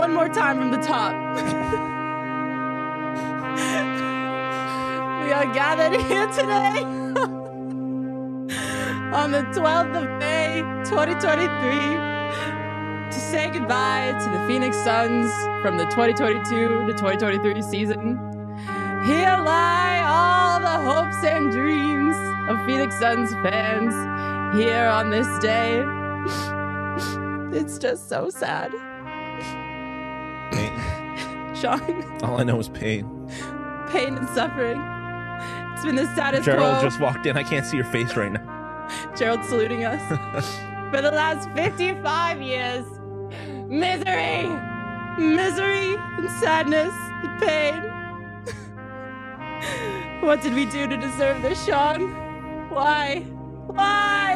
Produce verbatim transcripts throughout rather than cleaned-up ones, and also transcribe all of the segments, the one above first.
one more time from the top. We are gathered here today on the twelfth of May, twenty twenty-three, to say goodbye to the Phoenix Suns from the twenty twenty-two to twenty twenty-three season. Here lie all the hopes and dreams of Phoenix Suns fans here on this day. It's just so sad. Pain. Sean. All I know is pain. Pain and suffering. It's been the status Gerald quo. just walked in. I can't see your face right now. Gerald saluting us. For the last fifty-five years. Misery. Misery and sadness and pain. What did we do to deserve this, Sean? Why? Why?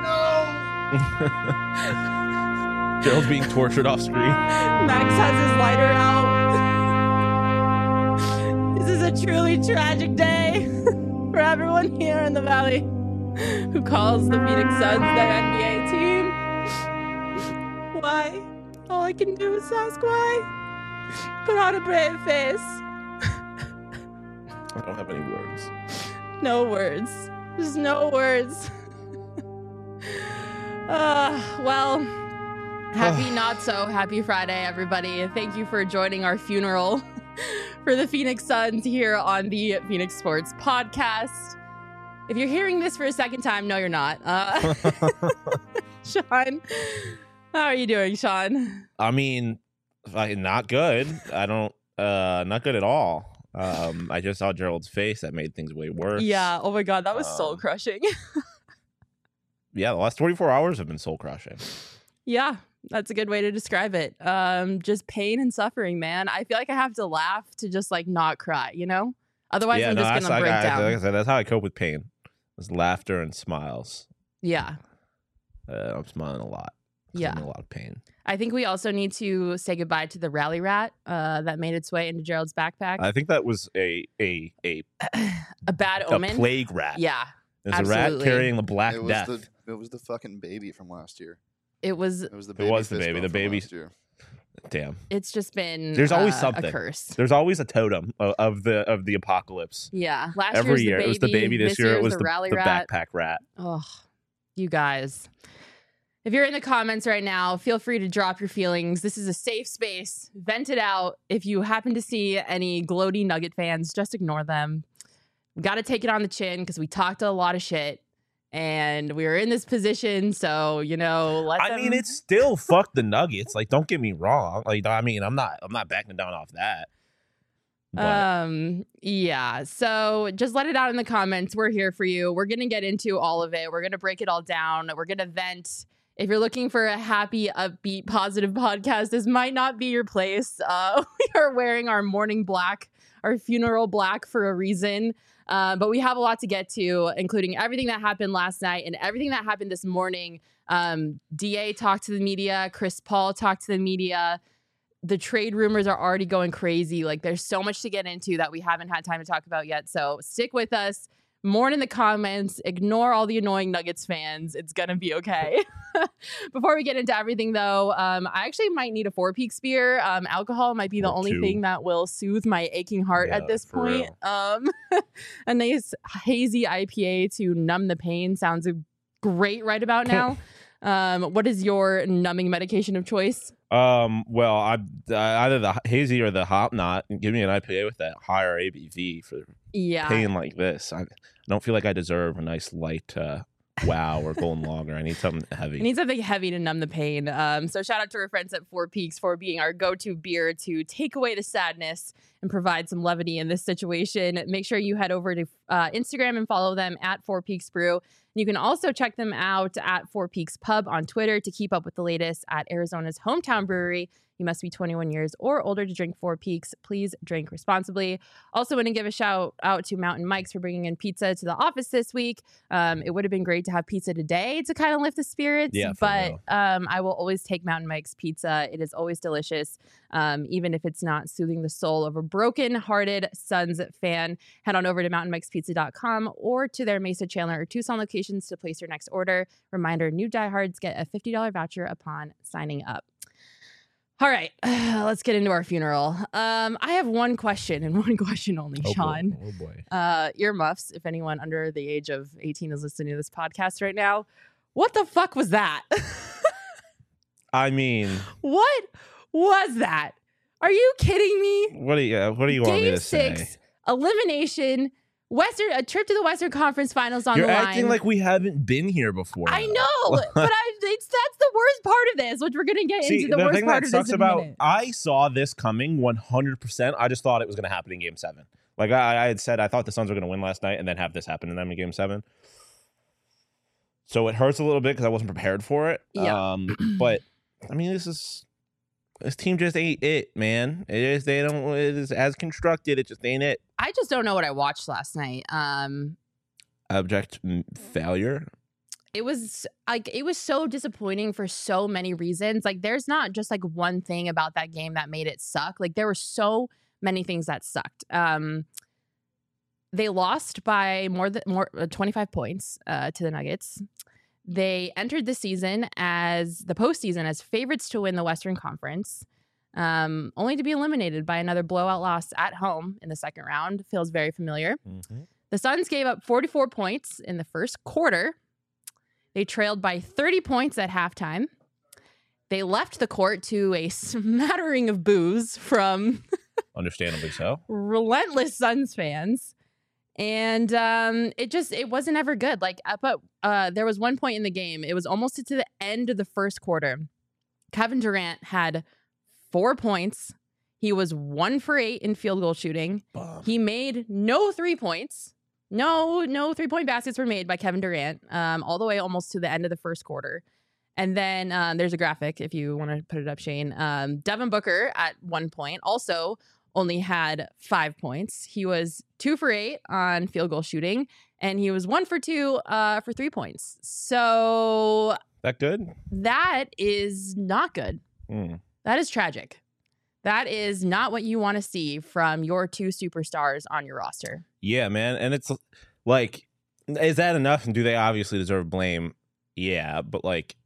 No. Gerald's being tortured off screen. Max has his lighter out. This is a truly tragic day for everyone here in the Valley who calls the Phoenix Suns their N B A team. Why? All I can do is ask why. Put on a brave face. I don't have any words. No words. There's no words. uh, well, happy not so happy Friday, everybody. Thank you for joining our funeral for the Phoenix Suns here on the Phoenix Sports Podcast. If you're hearing this for a second time, no, you're not. Uh, Sean, how are you doing, Sean? I mean, fucking not good. I don't, uh, not good at all. Um, I just saw Gerald's face. That made things way worse. Yeah. Oh my God, that was Um, soul crushing. Yeah, the last twenty-four hours have been soul crushing. Yeah, that's a good way to describe it. Um, just pain and suffering, man. I feel like I have to laugh to just like not cry, you know? Otherwise, yeah, I'm no, just that's gonna like, break I, down. like I said, that's how I cope with pain. It's laughter and smiles. Yeah, Uh, I'm smiling a lot. 'Cause yeah. I'm in a lot of pain. I think we also need to say goodbye to the rally rat uh, that made its way into Gerald's backpack. I think that was a a a a bad a omen. plague rat. Yeah, There's a rat absolutely. carrying the Black It was Death. the it was the fucking baby from last year. it was. It was the It baby. was the fist baby, bump the from baby- last year. Damn. It's just been. There's always uh, something. a curse. There's always a totem of, of the of the apocalypse. Yeah, last Every year's year the baby, it was the baby. This, year it was the, the, rally the rat. backpack rat. Oh, you guys. If you're in the comments right now, feel free to drop your feelings. This is a safe space. Vent it out. If you happen to see any gloaty Nugget fans, just ignore them. We got to take it on the chin because we talked a lot of shit and we were in this position. So, you know, let I them... mean, it's still fuck the Nuggets. Like, don't get me wrong. Like, I mean, I'm not I'm not backing down off that. But Um, yeah. So just let it out in the comments. We're here for you. We're going to get into all of it. We're going to break it all down. We're going to vent. If you're looking for a happy, upbeat, positive podcast, this might not be your place. Uh, we are wearing our morning black, our funeral black for a reason. Uh, but we have a lot to get to, including everything that happened last night and everything that happened this morning. Um, D A talked to the media. Chris Paul talked to the media. The trade rumors are already going crazy. Like, there's so much to get into that we haven't had time to talk about yet. So stick with us. More in the comments. Ignore all the annoying Nuggets fans. It's going to be okay. Before we get into everything, though, um, I actually might need a Four Peaks beer. Um, alcohol might be the Or only two. thing that will soothe my aching heart Yeah, at this for point. Um, a nice hazy I P A to numb the pain sounds great right about now. Um, what is your numbing medication of choice? um, well, I uh, either the hazy or the hop knot. Give me an I P A with that higher A B V for Yeah. pain like this. I, I don't feel like I deserve a nice light uh, wow or golden lager. I need something heavy. I need something heavy to numb the pain. Um, so shout out to our friends at Four Peaks for being our go-to beer to take away the sadness and provide some levity in this situation. Make sure you head over to uh, Instagram and follow them at Four Peaks Brew. You can also check them out at Four Peaks Pub on Twitter to keep up with the latest at Arizona's hometown brewery. You must be twenty-one years or older to drink Four Peaks. Please drink responsibly. Also want to give a shout out to Mountain Mike's for bringing in pizza to the office this week. Um, it would have been great to have pizza today to kind of lift the spirits, Yeah, for but real. um, I will always take Mountain Mike's pizza. It is always delicious, um, even if it's not soothing the soul of a broken-hearted Suns fan. Head on over to mountain mikes pizza dot com or to their Mesa, Chandler, or Tucson locations to place your next order. Reminder, new diehards get a fifty dollars voucher upon signing up. All right, let's get into our funeral. Um, I have one question and one question only, Oh, Sean. boy. Oh boy. Uh, earmuffs, if anyone under the age of eighteen is listening to this podcast right now. What the fuck was that? I mean, What was that? Are you kidding me? what do you uh, what do you want me Game to six, say? elimination, Western, a trip to the Western Conference Finals on You're the line. acting like we haven't been here before. I know, but I, it's, that's the worst part of this, which we're going to get See, into the, the worst thing part that of sucks this in a about minute. I saw this coming one hundred percent. I just thought it was going to happen in Game Seven. Like I, I had said, I thought the Suns were going to win last night and then have this happen to them in Game Seven. So it hurts a little bit because I wasn't prepared for it. Yeah. Um, but I mean, this is this team just ain't it, man. It is they don't. It is as constructed. It just ain't it. I just don't know what I watched last night. Um, Abject m- failure. it was like it was so disappointing for so many reasons. Like there's not just like one thing about that game that made it suck. Like there were so many things that sucked. Um, they lost by more than more uh, twenty-five points uh, to the Nuggets. They entered the season as the postseason as favorites to win the Western Conference, um, only to be eliminated by another blowout loss at home in the second round. Feels very familiar. Mm-hmm. The Suns gave up forty-four points in the first quarter. They trailed by thirty points at halftime. They left the court to a smattering of boos from Understandably so. relentless Suns fans. And um, it just, it wasn't ever good. Like, up at, uh, there was one point in the game, it was almost to the end of the first quarter. Kevin Durant had four points. He was one for eight in field goal shooting. Bum. He made no three points. No, no three-point baskets were made by Kevin Durant, um, all the way almost to the end of the first quarter. And then um, there's a graphic if you want to put it up, Shane. Um, Devin Booker at one point also only had five points. He was two for eight on field goal shooting, and he was one for two uh, for three points. So That good? that is not good. Mm. That is tragic. That is not what you want to see from your two superstars on your roster. Yeah, man. And it's like, is that enough? And do they obviously deserve blame? Yeah, but like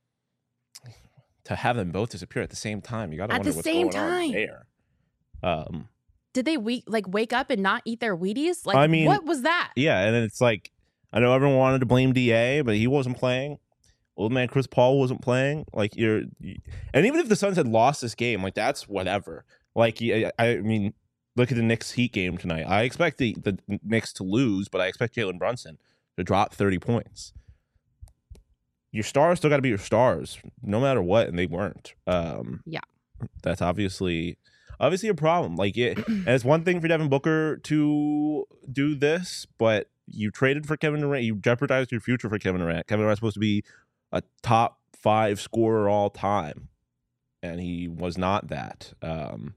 to have them both disappear at the same time, you got to At wonder the what's same going on time. there. Um, Did they we- like wake up and not eat their Wheaties? Like, I mean, what was that? yeah, and then it's like, I know everyone wanted to blame D A, but he wasn't playing. Old man Chris Paul wasn't playing. Like you're, you, and even if the Suns had lost this game, like that's whatever. Like I, I mean, look at the Knicks Heat game tonight. I expect the, the Knicks to lose, but I expect Jalen Brunson to drop thirty points. Your stars still got to be your stars, no matter what, and they weren't. Um, Yeah. that's obviously obviously a problem. Like it, and it's one thing for Devin Booker to do this, but you traded for Kevin Durant. You jeopardized your future for Kevin Durant. Kevin Durant's supposed to be a top five scorer all time, and he was not that. Um,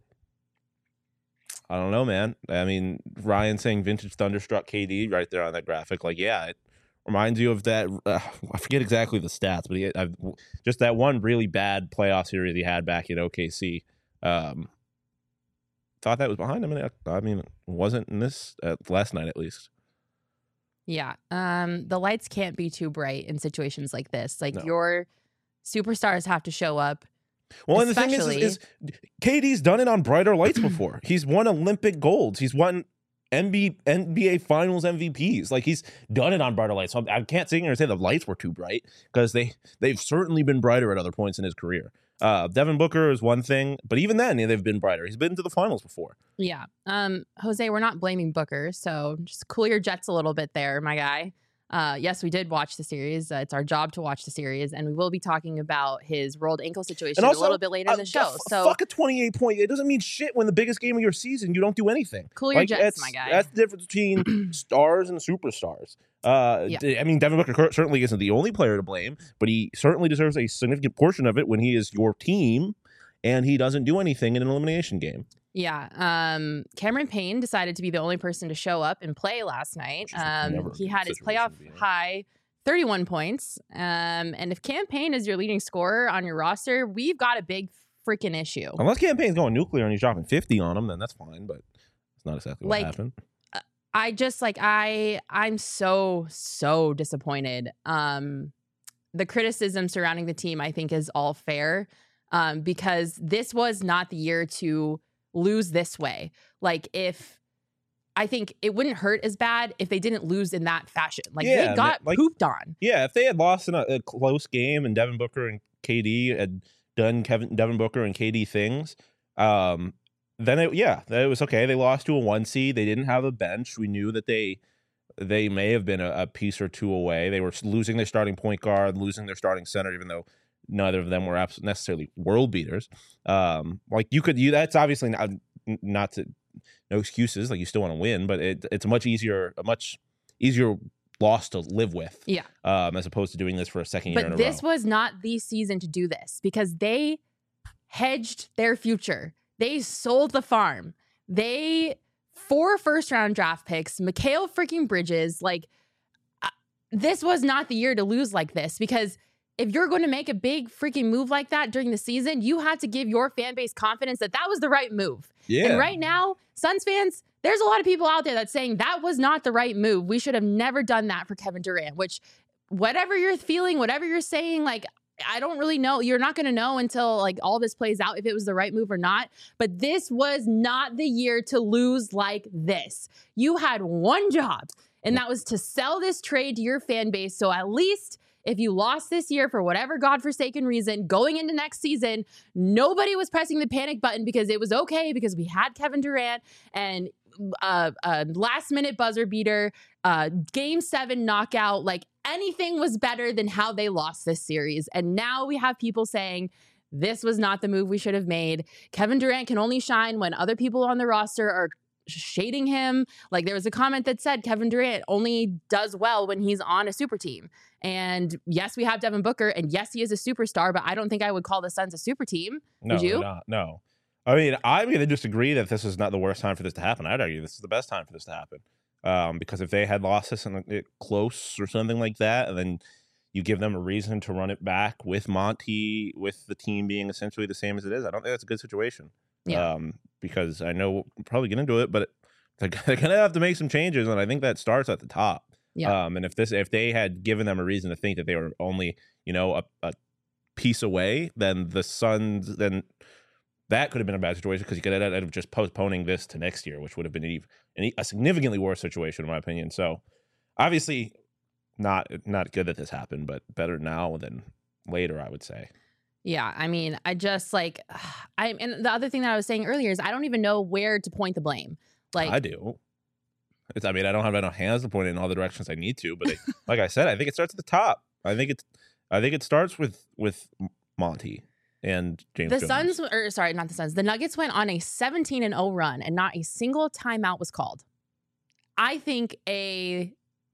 I don't know, man. I mean, Ryan saying vintage Thunderstruck K D right there on that graphic. Like, yeah, it reminds you of that. Uh, I forget exactly the stats, but he, I've, just that one really bad playoff series he had back in O K C. Um, thought that was behind him. And I mean, it wasn't in this uh, last night, at least. Yeah. Um, the lights can't be too bright in situations like this. Like No. your superstars have to show up. Well, and the thing is, Especially- is, is K D's done it on brighter lights before. He's won Olympic golds. He's won N B A, N B A Finals M V Ps. Like he's done it on brighter lights. So I can't sit here and say the lights were too bright because they they've certainly been brighter at other points in his career. Uh, Devin Booker is one thing, but even then they've been brighter. He's been to the finals before. Yeah. Um, Jose, we're not blaming Booker, so just cool your jets a little bit there, my guy. Uh, yes, we did watch the series. Uh, it's our job to watch the series, and we will be talking about his rolled ankle situation And also, a little bit later in Uh, the show. f- So fuck a twenty-eight point. It doesn't mean shit when the biggest game of your season you don't do anything. cool your Like, jets, that's, my guy. That's the difference between stars and superstars. Uh, Yeah. d- I mean, Devin Booker cur- certainly isn't the only player to blame, but he certainly deserves a significant portion of it when he is your team and he doesn't do anything in an elimination game. Yeah. Um, Cameron Payne decided to be the only person to show up and play last night. Which is never Um, a he good had his situation playoff to be in. high thirty-one points. Um, and if Cam Payne is your leading scorer on your roster, we've got a big freaking issue. Unless campaign's going nuclear and he's dropping fifty on him, then that's fine, but it's not exactly what Like, happened. I just like I I'm so so disappointed. Um the criticism surrounding the team I think is all fair. um, because this was not the year to lose this way. Like if I think it wouldn't hurt as bad if they didn't lose in that fashion. Like Yeah, they got like- pooped on. Yeah, if they had lost in a, a close game and Devin Booker and K D had done Kevin Devin Booker and K D things, um, then it, yeah, that it was okay. They lost to a one seed. They didn't have a bench. We knew that they they may have been a, a piece or two away. They were losing their starting point guard, losing their starting center, even though neither of them were abs- necessarily world beaters. Um, like you could, you that's obviously not not to no excuses. Like you still want to win, but it, it's a much easier, a much easier loss to live with. Yeah. Um, as opposed to doing this for a second year in But a this row. was not the season to do this because they hedged their future. They sold the farm. They four first round draft picks, Mikal freaking Bridges. Like uh, this was not the year to lose like this because if you're going to make a big freaking move like that during the season, you have to give your fan base confidence that that was the right move. Yeah. And right now, Suns fans, there's a lot of people out there that's saying that was not the right move. We should have never done that for Kevin Durant, which whatever you're feeling, whatever you're saying, like, I don't really know. You're not going to know until like all this plays out if it was the right move or not. But this was not the year to lose like this. You had one job, and that was to sell this trade to your fan base. So at least if you lost this year for whatever godforsaken reason, going into next season, nobody was pressing the panic button because it was okay because we had Kevin Durant and uh, a last minute buzzer beater, uh, game seven knockout. Like anything was better than how they lost this series. And now we have people saying this was not the move we should have made. Kevin Durant can only shine when other people on the roster are shading him. Like there was a comment that said Kevin Durant only does well when he's on a super team. And yes, we have Devin Booker, and yes, he is a superstar, but I don't think I would call the Suns a super team. No, Would you? not, no. I mean, I'm going to disagree that this is not the worst time for this to happen. I'd argue this is the best time for this to happen. Um, because if they had lost this in it close or something like that, and then you give them a reason to run it back with Monty, with the team being essentially the same as it is, I don't think that's a good situation. Yeah. Um, because I know we'll probably get into it, but they're, they're going to have to make some changes, and I think that starts at the top. Yeah. Um, and if this, if they had given them a reason to think that they were only, you know, a, a piece away, then the Suns, then that could have been a bad situation because you could have ended up just postponing this to next year, which would have been an, a significantly worse situation, in my opinion. So, obviously, not not good that this happened, but better now than later, I would say. Yeah, I mean, I just like, I and the other thing that I was saying earlier is I don't even know where to point the blame. Like, I do. It's, I mean, I don't have enough hands to point it in all the directions I need to, but it, like I said, I think it starts at the top. I think it's, I think it starts with with Monty and James the Jones. Suns, or sorry, not the Suns. The Nuggets went on a seventeen and oh run, and not a single timeout was called. I think a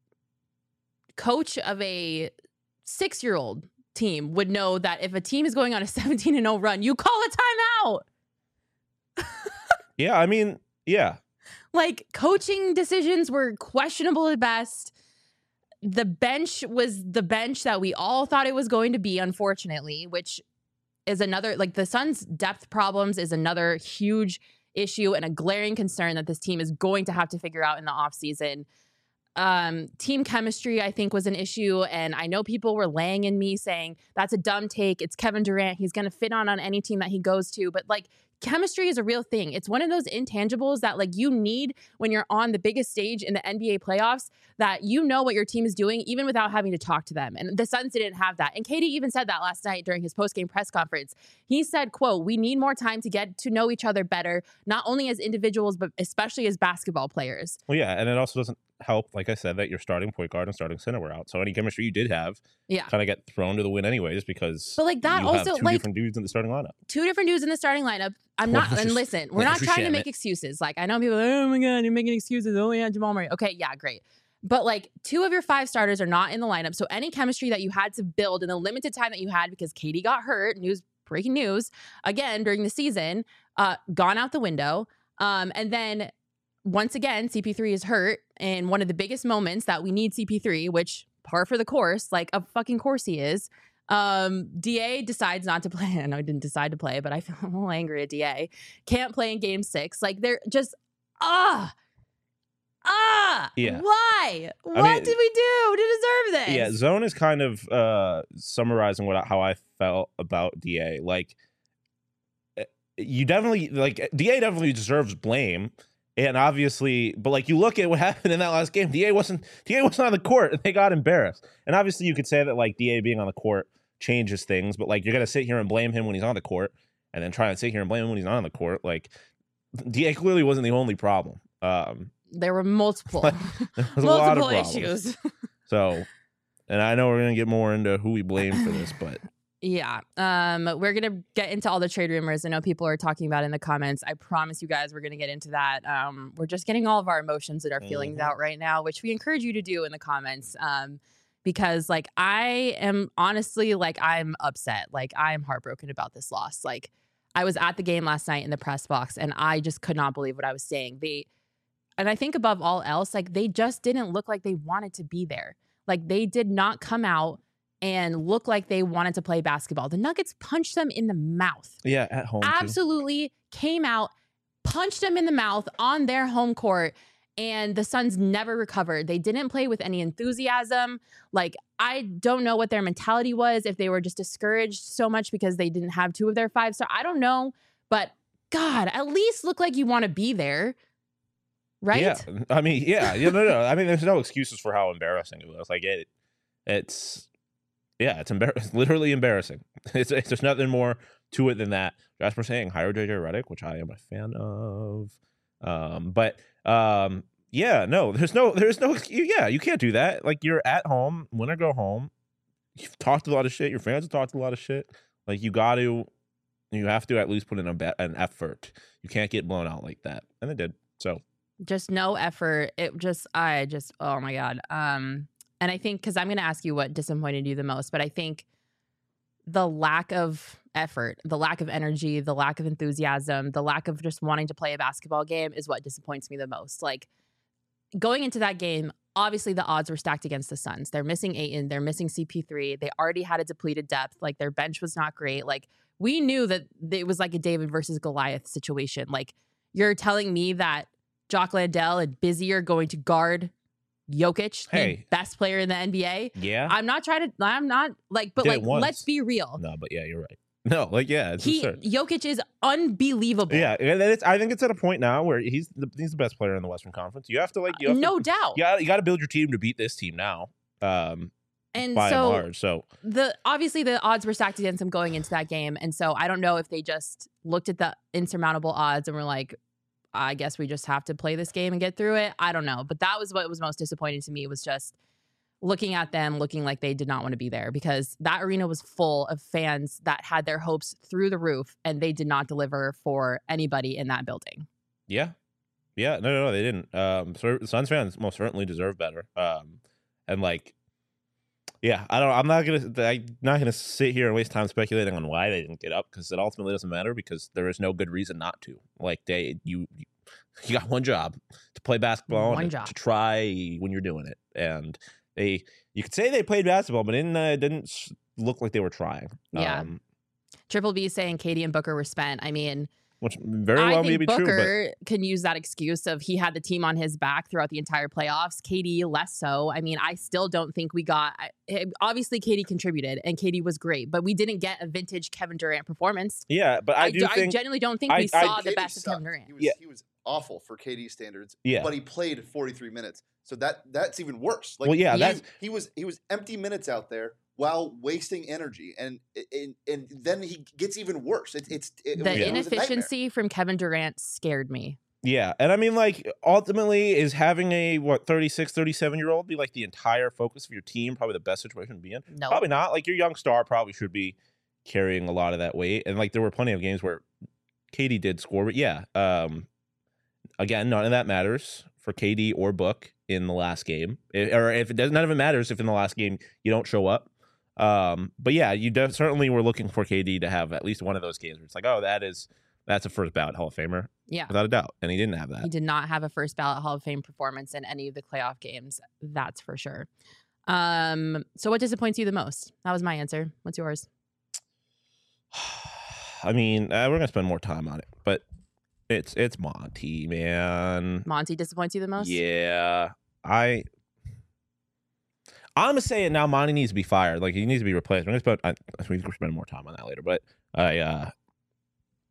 coach of a six-year-old team would know that if a team is going on a seventeen and oh run, you call a timeout. Yeah, I mean, yeah. Like, coaching decisions were questionable at best. The bench was the bench that we all thought it was going to be, unfortunately, which is another, like, the Suns' depth problems is another huge issue and a glaring concern that this team is going to have to figure out in the offseason. Um, team chemistry, I think, was an issue. And I know people were laying in me saying, that's a dumb take. It's Kevin Durant. He's going to fit on on any team that he goes to. But, like, chemistry is a real thing. It's one of those intangibles that like you need when you're on the biggest stage in the N B A playoffs, that you know what your team is doing even without having to talk to them. And the Suns didn't have that. And K D even said that last night during his post-game press conference. He said, quote, "We need more time to get to know each other better, not only as individuals, but especially as basketball players." Well, yeah, and it also doesn't help, like I said, that your starting point guard and starting center were out. So any chemistry you did have Yeah. kind of get thrown to the wind anyways because But like that you also have two like different dudes in the starting lineup. two different dudes in the starting lineup. I'm Well, not, let's and just- listen, we're not let's trying to sham make it. excuses. Like, I know people are like, oh my God, you're making excuses. Oh yeah, Jamal Murray. Okay, yeah, great. But like two of your five starters are not in the lineup. So any chemistry that you had to build in the limited time that you had because K D got hurt, news, breaking news, again during the season, uh, gone out the window. Um, and then once again, C P three is hurt in one of the biggest moments that we need C P three, which par for the course, like a fucking course he is. Um, D A decides not to play. I know he didn't decide to play, but I feel a little angry at D A. Can't play in game six. Like they're just, ah, ah, Yeah. why? What mean- did we do to deserve this? Yeah, Zone is kind of uh, summarizing what how I felt about D A. Like you definitely like D A definitely deserves blame. And obviously, but like you look at what happened in that last game, D A wasn't D A wasn't on the court and they got embarrassed. And obviously you could say that like D A being on the court changes things, but like you're gonna sit here and blame him when he's on the court and then try and sit here and blame him when he's not on the court. Like D A clearly wasn't the only problem. Um there were multiple there was multiple a lot of problems. issues. So, and I know we're gonna get more into who we blame for this, but yeah, um, we're gonna get into all the trade rumors. I know people are talking about it in the comments. I promise you guys, we're gonna get into that. Um, we're just getting all of our emotions and our feelings Mhm. out right now, which we encourage you to do in the comments. Um, because like I am honestly like I'm upset. Like I am heartbroken about this loss. Like I was at the game last night in the press box, and I just could not believe what I was saying. They, and I think above all else, like they just didn't look like they wanted to be there. Like they did not come out and look like they wanted to play basketball. The Nuggets punched them in the mouth. yeah, at home too. Absolutely came out, punched them in the mouth on their home court, and the Suns never recovered. They didn't play with any enthusiasm. Like, I don't know what their mentality was, if they were just discouraged so much because they didn't have two of their five. So I don't know, but God, at least look like you want to be there. Right? Yeah, I mean, yeah, yeah, no, no. I mean, there's no excuses for how embarrassing it was. Like it, it's, yeah, it's embarrassing. Literally embarrassing. It's, it's there's nothing more to it than that. Jasper saying hire J J Redick, which I am a fan of. Um, but um, yeah, no, there's no, there's no, yeah, you can't do that. Like you're at home, win or go home. You've talked a lot of shit. Your fans have talked a lot of shit. Like you got to, you have to at least put in a be- an effort. You can't get blown out like that, and they did. So. Just no effort. It just, I just, oh my God. Um, and I think, because I'm going to ask you what disappointed you the most, but I think the lack of effort, the lack of energy, the lack of enthusiasm, the lack of just wanting to play a basketball game is what disappoints me the most. Like going into that game, obviously the odds were stacked against the Suns. They're missing Ayton. They're missing C P three. They already had a depleted depth. Like their bench was not great. Like we knew that it was like a David versus Goliath situation. Like you're telling me that Jock Landale and Busy are going to guard Jokic, Hey. the best player in the N B A. Yeah. I'm not trying to, I'm not like, but Did like, it once. let's be real. No, but yeah, you're right. No, like yeah, it's He, absurd. Jokic is unbelievable. Yeah, and it's, I think it's at a point now where he's the, he's the best player in the Western Conference. You have to like, you have no to, doubt. Yeah, you got to build your team to beat this team now. Um, And by so and large, so the obviously the odds were stacked against him going into that game, and so I don't know if they just looked at the insurmountable odds and were like, I guess we just have to play this game and get through it. I don't know. But that was what was most disappointing to me, was just looking at them looking like they did not want to be there, because that arena was full of fans that had their hopes through the roof, and they did not deliver for anybody in that building. yeah, yeah, no, no, no, they didn't. Um, so Suns fans most certainly deserve better. Um, and like, yeah, I don't. I'm not gonna. I'm not gonna sit here and waste time speculating on why they didn't get up, because it ultimately doesn't matter, because there is no good reason not to. Like they, you, you got one job to play basketball, One and job. to try when you're doing it, and they. You could say they played basketball, but it didn't, uh, it didn't look like they were trying. Yeah. Um, Triple B saying Katie and Booker were spent. I mean, which very I well think may be Booker true, can use that excuse of he had the team on his back throughout the entire playoffs. Katie less so. I mean, I still don't think we got. I- Obviously, Katie contributed and Katie was great, but we didn't get a vintage Kevin Durant performance. but yeah. But I, I, do do- think I genuinely don't think I- we I- saw the Katie best of sucked. Kevin Durant. He was, Yeah. he was awful for K D standards. Yeah. But he played forty-three minutes. So that that's even worse. Like Well, yeah, he, that's- he was he was empty minutes out there while wasting energy, and and, and then he gets even worse. It, it's it, The was, it was a nightmare. inefficiency from Kevin Durant scared me. Yeah, and I mean, like, ultimately, is having a, what, thirty-six, thirty-seven-year-old be, like, the entire focus of your team probably the best situation to be in? No, Probably not. Like, your young star probably should be carrying a lot of that weight. And, like, there were plenty of games where Katie did score. But, yeah, um, again, none of that matters for K D or Book in the last game. It, or if it does, none of it matters if in the last game you don't show up. Um, but, yeah, you def- certainly were looking for K D to have at least one of those games where it's like, oh, that is... That's a first ballot Hall of Famer, yeah. without a doubt. And he didn't have that. He did not have a first ballot Hall of Fame performance in any of the playoff games. That's for sure. Um, so what disappoints you the most? That was my answer. What's yours? I mean, uh, we're gonna spend more time on it, but it's it's Monty, man. Monty disappoints you the most? Yeah, I. I'm gonna say it now. Monty needs to be fired. Like he needs to be replaced. We're gonna spend. I, we can spend more time on that later, but I. uh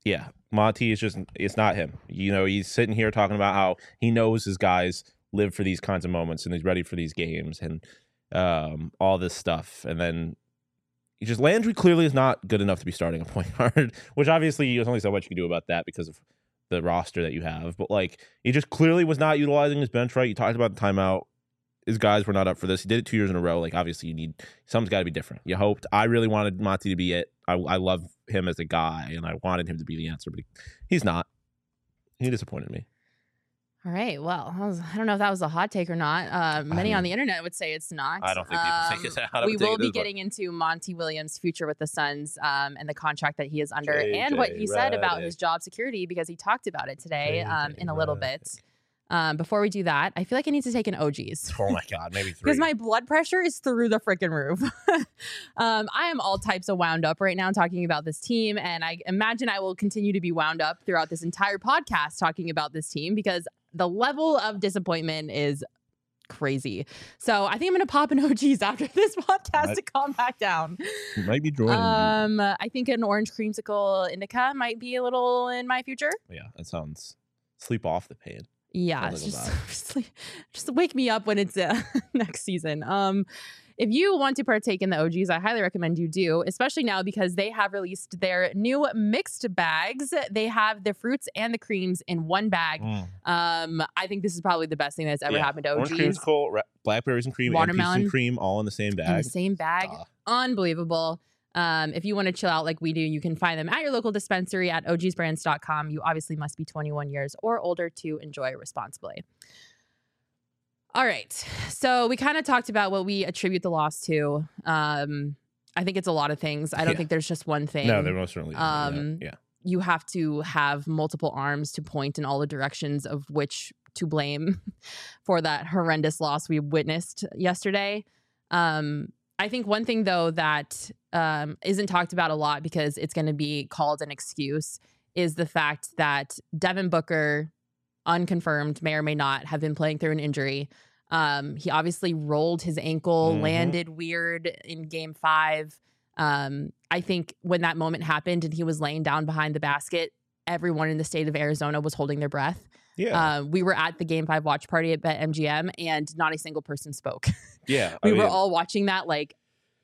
yeah, Monty is just, it's not him. You know, he's sitting here talking about how he knows his guys live for these kinds of moments and he's ready for these games and um, all this stuff. And then he just, Landry clearly is not good enough to be starting a point guard, which obviously there's only so much you can do about that because of the roster that you have. But like, he just clearly was not utilizing his bench right. You talked about the timeout. His guys were not up for this. He did it two years in a row. Like, obviously, you need, something's got to be different. You hoped. I really wanted Monty to be it. I, I love him as a guy, and I wanted him to be the answer, but he, he's not. He disappointed me. All right. Well, I, was, I don't know if that was a hot take or not. Uh, many mean, on the internet would say it's not. I don't think people um, think it's I don't We think will it be is, but- getting into Monty Williams' future with the Suns um, and the contract that he is under J J and what he said about Redick. his job security because he talked about it today J J um, in a little Redick. bit. Um, before we do that, I feel like I need to take an O Gs. Oh my God, maybe three. Because my blood pressure is through the freaking roof. um, I am all types of wound up right now talking about this team. And I imagine I will continue to be wound up throughout this entire podcast talking about this team because the level of disappointment is crazy. So I think I'm going to pop an O Gs after this podcast Might- to calm back down. You might be joining. Um, I think an orange creamsicle indica might be a little in my future. yeah, that sounds sleep off the pain. Yeah, A it's little just, just like- just wake me up when it's uh, next season. Um, if you want to partake in the O Gs, I highly recommend you do, especially now because they have released their new mixed bags. They have the fruits and the creams in one bag. Mm. Um, I think this is probably the best thing that's ever Yeah. happened to Orange O Gs. creamsicle, ra- blackberries and cream, and Watermelon. peaches and cream, all in the same In the bag. same bag. Ah. Unbelievable. Um, if you want to chill out like we do, you can find them at your local dispensary at O Gs brands dot com. You obviously must be twenty-one years or older to enjoy responsibly. All right. So we kind of talked about what we attribute the loss to. Um, I think it's a lot of things. I don't Yeah. think there's just one thing. No, there most certainly isn't. Um, yeah. You have to have multiple arms to point in all the directions of which to blame for that horrendous loss we witnessed yesterday. Um, I think one thing, though, that um, isn't talked about a lot because it's going to be called an excuse is the fact that Devin Booker, unconfirmed, may or may not have been playing through an injury. Um, he obviously rolled his ankle, Mhm. landed weird in game five. Um, I think when that moment happened and he was laying down behind the basket, everyone in the state of Arizona was holding their breath. Yeah. Uh, we were at the game five watch party at BetMGM and not a single person spoke. yeah. we I were mean, all watching that like,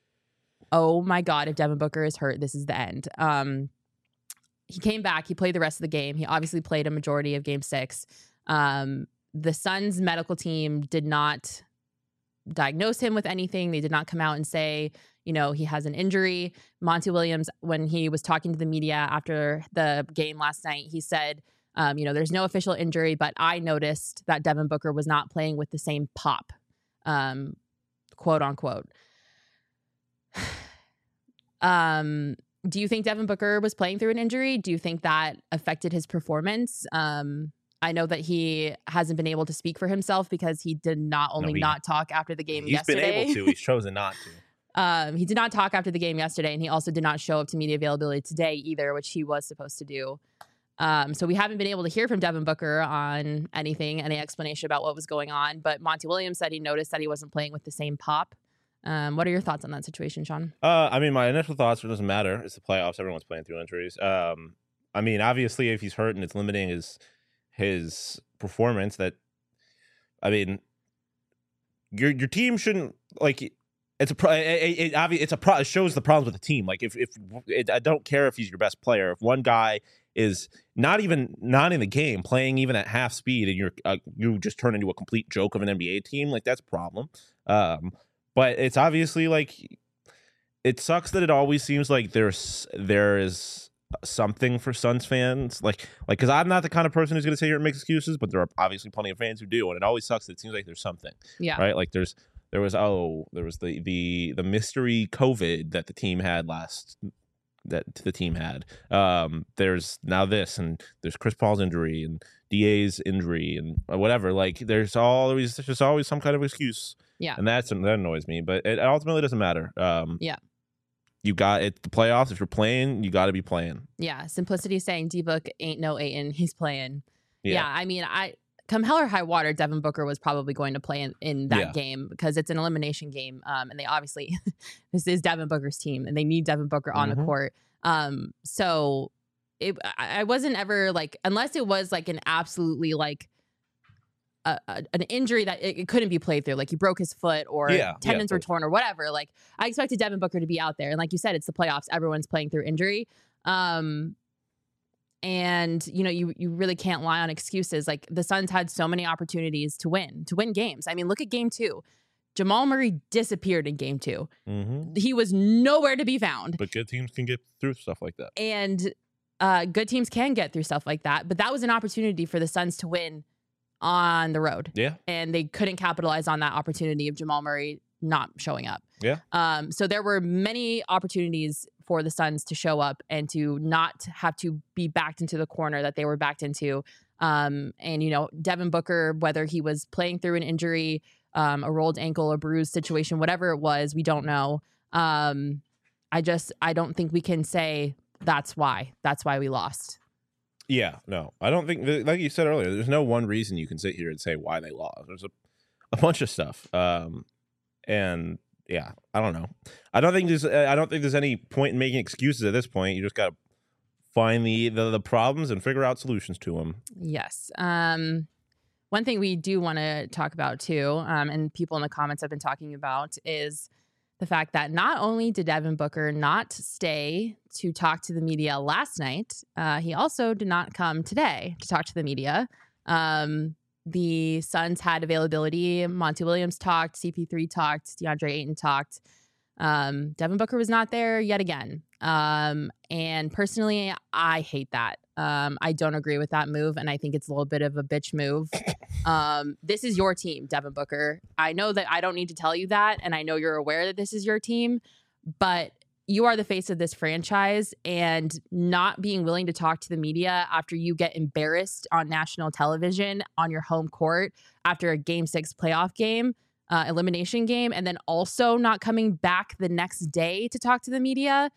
oh my God, if Devin Booker is hurt, this is the end. Um, he came back. He played the rest of the game. He obviously played a majority of game six. Um, the Suns medical team did not diagnose him with anything. They did not come out and say, you know, he has an injury. Monty Williams, when he was talking to the media after the game last night, he said, um, you know, there's no official injury, but I noticed that Devin Booker was not playing with the same pop, um, quote unquote. um, do you think Devin Booker was playing through an injury? Do you think that affected his performance? Um, I know that he hasn't been able to speak for himself because he did not only he- not talk after the game he's yesterday. been able to. He's chosen not to. Um, he did not talk after the game yesterday, and he also did not show up to media availability today either, which he was supposed to do. Um, so we haven't been able to hear from Devin Booker on anything, any explanation about what was going on. But Monty Williams said he noticed that he wasn't playing with the same pop. Um, what are your thoughts on that situation, Sean? Uh, I mean, my initial thoughts, it doesn't matter. It's the playoffs. Everyone's playing through injuries. Um, I mean, obviously, if he's hurt and it's limiting his his performance, that I mean, your your team shouldn't like. It's a pro. It, it, it, obvi- it's a pro. It shows the problems with the team. Like if if it, I don't care if he's your best player. If one guy is not even not in the game, playing even at half speed, and you're uh, you just turn into a complete joke of an N B A team, like that's a problem. Um, but it's obviously like it sucks that it always seems like there's there is something for Suns fans, like like because I'm not the kind of person who's going to sit here and make excuses, but there are obviously plenty of fans who do, and it always sucks that it seems like there's something. Yeah. Right, like there's. There was oh, there was the the the mystery COVID that the team had last that the team had. Um, there's now this, and there's Chris Paul's injury and D A's injury and whatever. Like there's always there's just always some kind of excuse. Yeah. and that's that annoys me. But it ultimately doesn't matter. Um, Yeah. you got it. The playoffs. If you're playing, you got to be playing. Yeah. Simplicity saying D-Book ain't no Ayton. He's playing. Yeah. Yeah. I mean, I come hell or high water, Devin Booker was probably going to play in, in that Yeah. game because it's an elimination game. Um, and they obviously, this is Devin Booker's team and they need Devin Booker on Mhm. the court. Um, so it, I I wasn't ever like, unless it was like an absolutely like a, a, an injury that it, it couldn't be played through, like he broke his foot or Yeah, tendons yeah, were torn or whatever. Like I expected Devin Booker to be out there, and like you said, it's the playoffs. Everyone's playing through injury. Um, And, you know, you you really can't lie on excuses. Like the Suns had so many opportunities to win, to win games. I mean, look at game two. Jamal Murray disappeared in game two. Mm-hmm. He was nowhere to be found. But good teams can get through stuff like that. And uh, good teams can get through stuff like that. But that was an opportunity for the Suns to win on the road. Yeah. And they couldn't capitalize on that opportunity of Jamal Murray not showing up. Yeah. Um, so there were many opportunities for the Suns to show up and to not have to be backed into the corner that they were backed into. Um, and, you know, Devin Booker, whether he was playing through an injury, um, a rolled ankle, a bruised situation, whatever it was, we don't know. Um, I just, I don't think we can say that's why. That's why we lost. Yeah, no, I don't think, like you said earlier, there's no one reason you can sit here and say why they lost. There's a, a bunch of stuff. Um, and yeah, I don't know. I don't think there's, I don't think there's any point in making excuses at this point. You just got to find the, the, the problems and figure out solutions to them. Yes. Um, one thing we do want to talk about too, um, and people in the comments have been talking about, is the fact that not only did Devin Booker not stay to talk to the media last night, uh, he also did not come today to talk to the media. Um, the Suns had availability. Monty Williams talked, C P three talked, DeAndre Ayton talked. Um, Devin Booker was not there yet again. Um, and personally, I hate that. Um, I don't agree with that move, and I think it's a little bit of a bitch move. Um, this is your team, Devin Booker. I know that I don't need to tell you that, and I know you're aware that this is your team, but you are the face of this franchise, and not being willing to talk to the media after you get embarrassed on national television on your home court after a game six playoff game, uh, elimination game, and then also not coming back the next day to talk to the media.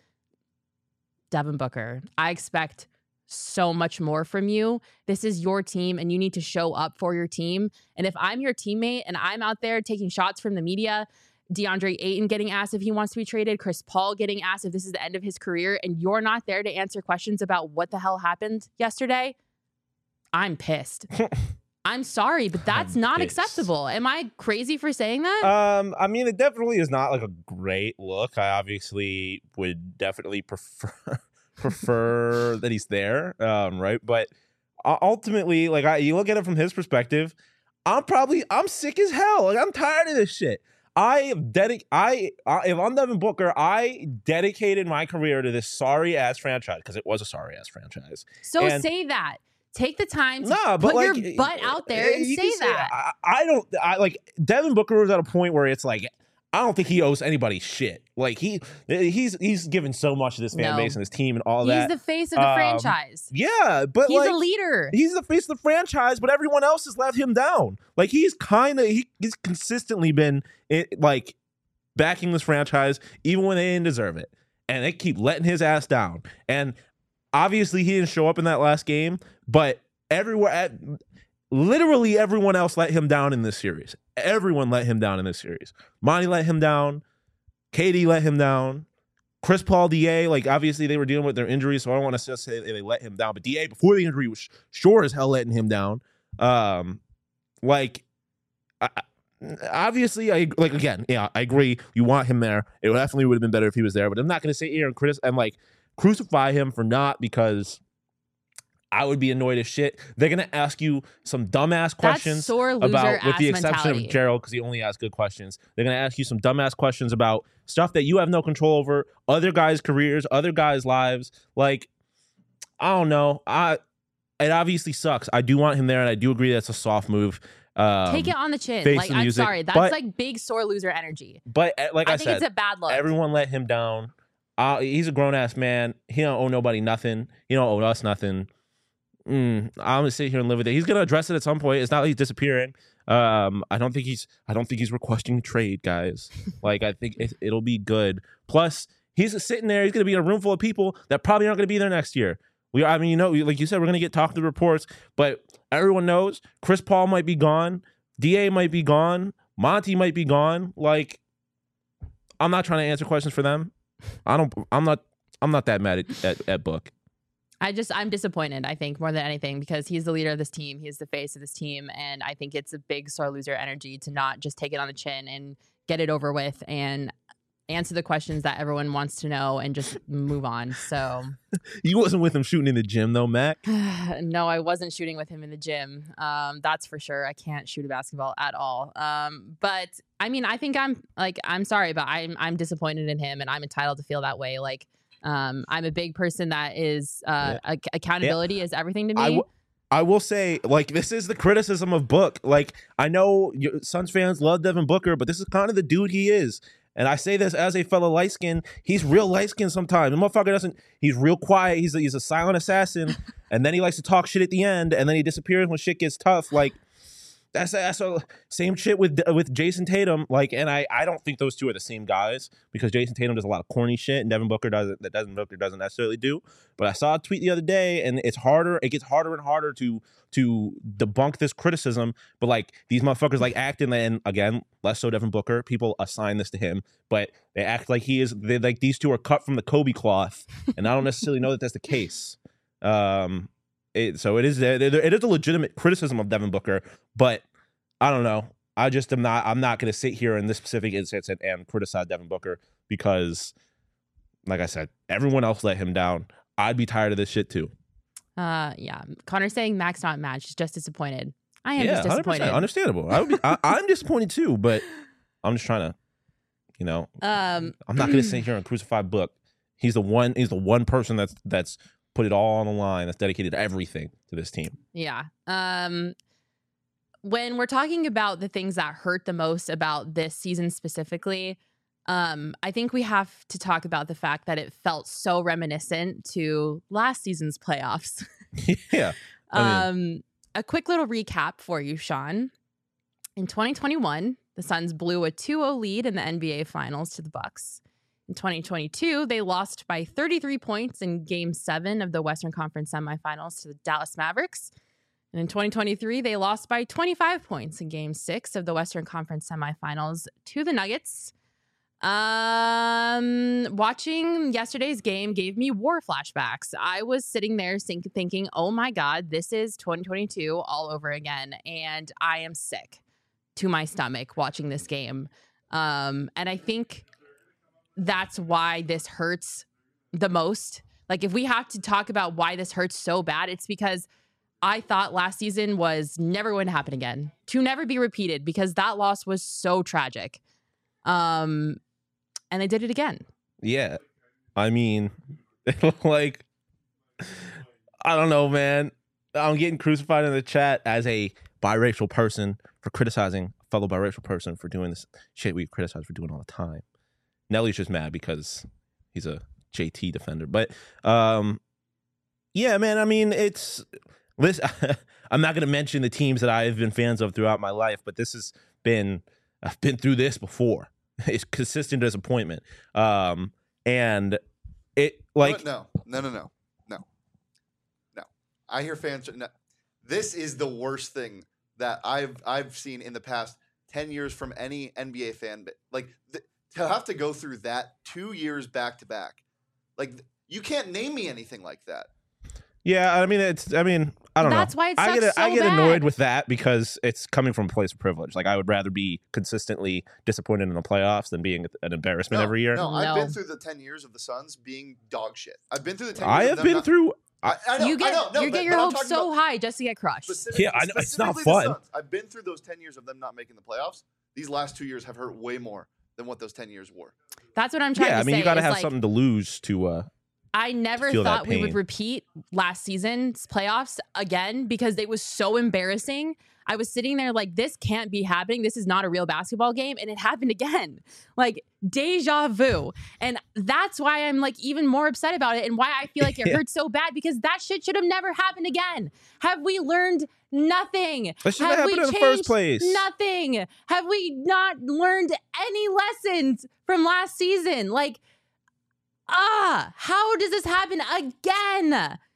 Devin Booker, I expect so much more from you. This is your team, and you need to show up for your team. And if I'm your teammate and I'm out there taking shots from the media, DeAndre Ayton getting asked if he wants to be traded, Chris Paul getting asked if this is the end of his career, and you're not there to answer questions about what the hell happened yesterday, I'm pissed. I'm sorry, but that's I'm not pissed. acceptable. Am I crazy for saying that? Um, I mean, it definitely is not like a great look. I obviously would definitely prefer prefer that he's there, um, right? But uh, ultimately, like, I, you look at it from his perspective, I'm probably I'm sick as hell. Like, I'm tired of this shit. I dedic I, I if I'm Devin Booker, I dedicated my career to this sorry ass franchise, because it was a sorry ass franchise. So and, say that. Take the time to nah, put but like, your butt out there and you say can that. I, I don't. I like Devin Booker was at a point where it's like, I don't think he owes anybody shit. Like he he's he's given so much to this fan No. base and his team and all He's that. the face of the Um, franchise. Yeah, but He's like, a leader. he's the face of the franchise, but everyone else has let him down. Like he's kind of he, he's consistently been it, like backing this franchise even when they didn't deserve it, and they keep letting his ass down. And obviously he didn't show up in that last game, but everywhere at literally everyone else let him down in this series. Everyone let him down in this series. Monty let him down. K D let him down. Chris Paul, D A, like obviously they were dealing with their injuries, so I don't want to just say they let him down. But D A before the injury was sure as hell letting him down. Um, like, I, obviously, I like again, yeah, I agree. You want him there. It definitely would have been better if he was there. But I'm not going to sit here and critic and like crucify him for not, because I would be annoyed as shit. They're gonna ask you some dumbass questions That's sore loser about, with the ass exception mentality. of Gerald, because he only asks good questions. They're gonna ask you some dumbass questions about stuff that you have no control over, other guys' careers, other guys' lives. Like, I don't know. I it obviously sucks. I do want him there, and I do agree that's a soft move. Um, Take it on the chin. face Like, the I'm music, sorry. That's but- like big sore loser energy. But uh, like I, I think said, it's a bad look. everyone let him down. Uh, he's a grown ass man. He don't owe nobody nothing. He don't owe us nothing. Mm, I'm gonna sit here and live with it. He's gonna address it at some point. It's not like he's disappearing. Um, I don't think he's. I don't think he's requesting trade, guys. Like I think it, it'll be good. Plus, he's sitting there. He's gonna be in a room full of people that probably aren't gonna be there next year. We. I mean, you know, like you said, we're gonna get talking reports, but everyone knows Chris Paul might be gone. D A might be gone. Monty might be gone. Like, I'm not trying to answer questions for them. I don't. I'm not. I'm not that mad at, at, at Book. I just, I'm disappointed, I think, more than anything, because he's the leader of this team. He's the face of this team. And I think it's a big sore loser energy to not just take it on the chin and get it over with and answer the questions that everyone wants to know and just move on. So You wasn't with him shooting in the gym, though, Mac? no, I wasn't shooting with him in the gym. Um, that's for sure. I can't shoot a basketball at all. Um, but I mean, I think I'm like, I'm sorry, but I'm, I'm disappointed in him and I'm entitled to feel that way. Like, Um, I'm a big person that is uh, Yeah. ac- accountability yeah. is everything to me. I, w- I will say, like, this is the criticism of Book. Like, I know your Suns fans love Devin Booker, but this is kind of the dude he is. And I say this as a fellow light skin. He's real light skin sometimes. The motherfucker doesn't. He's real quiet. He's a, he's a silent assassin, and then he likes to talk shit at the end, and then he disappears when shit gets tough. Like. That's that's a, same shit with with Jason Tatum. Like, and I, I don't think those two are the same guys because Jason Tatum does a lot of corny shit and Devin Booker doesn't. That Devin Booker doesn't necessarily do. But I saw a tweet the other day, and it's harder. It gets harder and harder to to debunk this criticism. But like these motherfuckers like acting, and again, less so Devin Booker. People assign this to him, but they act like he is. They like these two are cut from the Kobe cloth, and I don't necessarily know that that's the case. Um. It, so it is it is a legitimate criticism of Devin Booker, but I don't know. I just am not. I'm not going to sit here in this specific instance and, and criticize Devin Booker because, like I said, everyone else let him down. I'd be tired of this shit too. Uh, yeah. Connor's saying Mac's not matched. He's just disappointed. I am yeah, just disappointed. one hundred percent understandable. I would be, I, I'm disappointed too, but I'm just trying to, you know, um, I'm not going to sit here and crucify Book. He's the one. He's the one person that's that's. Put it all on the line. That's dedicated everything to this team. Yeah. Um, when we're talking about the things that hurt the most about this season specifically, um, I think we have to talk about the fact that it felt so reminiscent to last season's playoffs. yeah. I mean, um, a quick little recap for you, Sean. In twenty twenty-one, the Suns blew a two oh lead in the N B A Finals to the Bucks. In twenty twenty-two, they lost by thirty-three points in Game seven of the Western Conference semifinals to the Dallas Mavericks. And in twenty twenty-three, they lost by twenty-five points in Game six of the Western Conference semifinals to the Nuggets. Um, watching yesterday's game gave me war flashbacks. I was sitting there think- thinking, oh my God, this is twenty twenty-two all over again. And I am sick to my stomach watching this game. Um, and I think that's why this hurts the most. Like, if we have to talk about why this hurts so bad, it's because I thought last season was never going to happen again, to never be repeated, because that loss was so tragic. Um, and they did it again. Yeah. I mean, like, I don't know, man. I'm getting crucified in the chat as a biracial person for criticizing a fellow biracial person for doing this shit we criticize for doing all the time. Nelly's just mad because he's a J T defender. But, um, yeah, man, I mean, it's... Listen, I'm not going to mention the teams that I've been fans of throughout my life, but this has been... I've been through this before. It's consistent disappointment. Um, and it, like... No, no, no, no, no. No. I hear fans... No. This is the worst thing that I've I've seen in the past ten years from any N B A fan. Like... Th- To have to go through that two years back to back, like you can't name me anything like that. Yeah, I mean it's. I mean I don't That's know. why it I sucks get so I get bad. annoyed with that because it's coming from a place of privilege. Like I would rather be consistently disappointed in the playoffs than being an embarrassment No, every year. No, I've No. been through the ten years of the Suns being dog shit. I've been through the ten. I years have of them been not, through. I, I know, you get I know, no, you but, get your but I'm hopes talking so about high just to get crushed. specific- Yeah, I know, it's not specifically the fun. Suns. I've been through those ten years of them not making the playoffs. These last two years have hurt way more than what those ten years were. That's what I'm trying Yeah, to I mean say. you got to is have like, something to lose to. uh I never feel that thought we would pain. repeat last season's playoffs again because it was so embarrassing. I was sitting there like, this can't be happening. This is not a real basketball game. And it happened again. Like deja vu. And that's why I'm like even more upset about it and why I feel like it Yeah. hurts so bad because that shit should have never happened again. Have we learned nothing? That shouldn't Have have we happened in the changed first place. nothing? Have we not learned any lessons from last season? Like, ah, how does this happen again?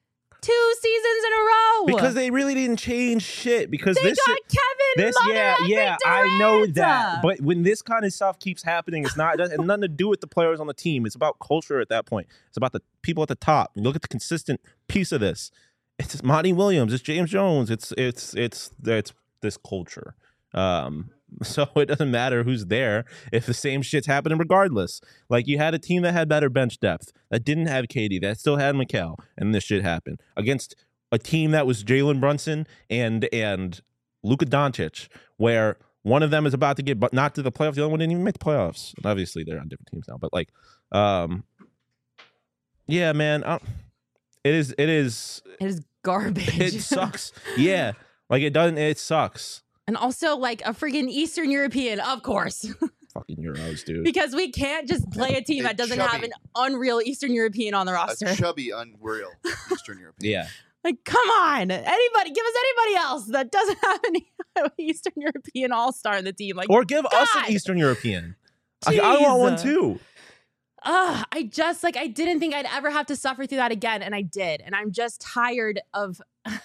two seasons in a row. Because they really didn't change shit. Because they this got shit, Kevin, this, Mother, yeah, and yeah, Durant. I know that. But when this kind of stuff keeps happening, it's not, it has nothing to do with the players on the team. It's about culture at that point. It's about the people at the top. You look at the consistent piece of this. It's Monty Williams. It's James Jones. It's it's it's it's this culture. Um, so it doesn't matter who's there if the same shit's happening regardless. Like you had a team that had better bench depth, that didn't have K D, that still had Mikal, and this shit happened against a team that was Jalen Brunson and and Luka Doncic, where one of them is about to get but not to the playoffs, the other one didn't even make the playoffs. And obviously they're on different teams now, but like, um, yeah, man, I, it is it is It is garbage. it sucks. Yeah, like it doesn't. It sucks. And also like a freaking Eastern European, of course. Fucking Euros, dude. Because we can't just play a team A that doesn't chubby- have an unreal Eastern European on the roster. A chubby, unreal Eastern European. Yeah. Like, come on. Anybody, give us anybody else that doesn't have an Eastern European all-star in the team. Like, Or give us an God. Eastern European. I, I want one Jeez. too. Ugh, I just, like, I didn't think I'd ever have to suffer through that again, and I did. And I'm just tired of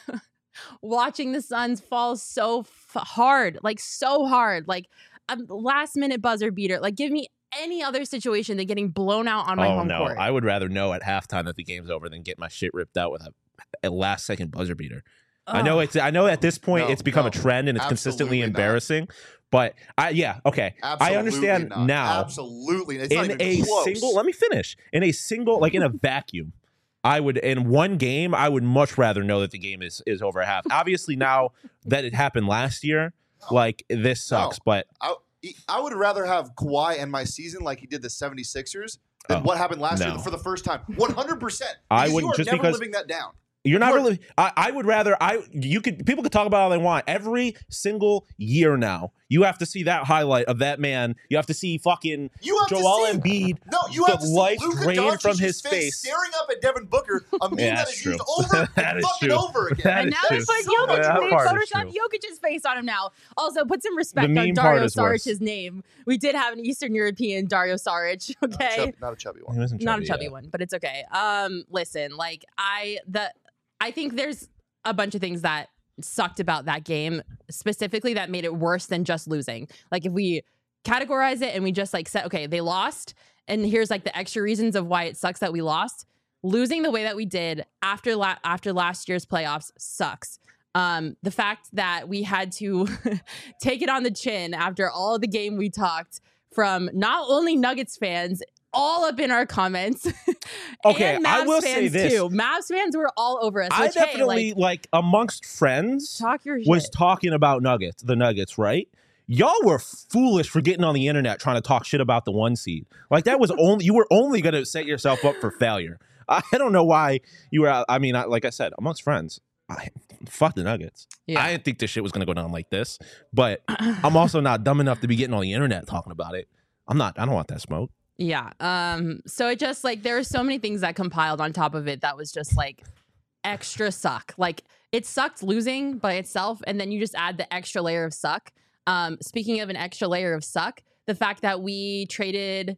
watching the Suns fall so f- hard, like, so hard. Like, a last-minute buzzer beater. Like, give me any other situation than getting blown out on my Oh home no, court. I would rather know at halftime that the game's over than get my shit ripped out with a, a last second buzzer beater. I know Ugh. it's. I know at this point No, it's become no, a trend and it's consistently absolutely not. embarrassing. But I, yeah, okay, Absolutely I understand not. now. Absolutely, it's not In even a close. single, let me finish. In a single, like in a vacuum, I would in one game. I would much rather know that the game is is over at half. Obviously, now that it happened last year, like this sucks. No. But I, I would rather have Kawhi end my season like he did the 76ers than Oh, what happened last no. year for the first time. one hundred percent. I Because wouldn't- you are just never because- living that down. You're not You are- really. I, I would rather. I you could. People could talk about all they want. Every single year now, you have to see that highlight of that man. You have to see fucking You have Joel to see, Embiid. No, you the have to see life Luka drained Doncic's from his face, face. staring up at Devin Booker, a meme Yeah, that that's is true. used over That and is fucking true. over again. That And is now true. they put So Jokic. that They part is Photoshop true. Jokic's face on him now. Also, put some respect The on meme Dario part is worse. Saric's name. We did have an Eastern European Dario Saric. Not a Okay, chub- not a chubby He one. wasn't not a chubby yeah. one, but it's okay. Um, listen, like I the I think there's a bunch of things that sucked about that game, specifically that made it worse than just losing. Like if we categorize it and we just like said, okay, they lost, and here's like the extra reasons of why it sucks that we lost. Losing the way that we did after la- after last year's playoffs sucks. Um, the fact that we had to take it on the chin after all of the game we talked from not only Nuggets fans, all up in our comments. Okay, and I Mavs will fans say this. too. Mavs fans were all over us. I Which, hey, definitely like, like amongst friends talk your was shit. talking about Nuggets, the Nuggets, right? Y'all were foolish for getting on the internet trying to talk shit about the one seed. Like that was only you were only going to set yourself up for failure. I don't know why you were. I mean, I, like I said, amongst friends, I, fuck the Nuggets. Yeah. I didn't think this shit was going to go down like this, but I'm also not dumb enough to be getting on the internet talking about it. I'm not. I don't want that smoke. Yeah. Um, so it just like there are so many things that compiled on top of it that was just like extra suck. Like it sucked losing by itself, and then you just add the extra layer of suck. Um, speaking of an extra layer of suck, the fact that we traded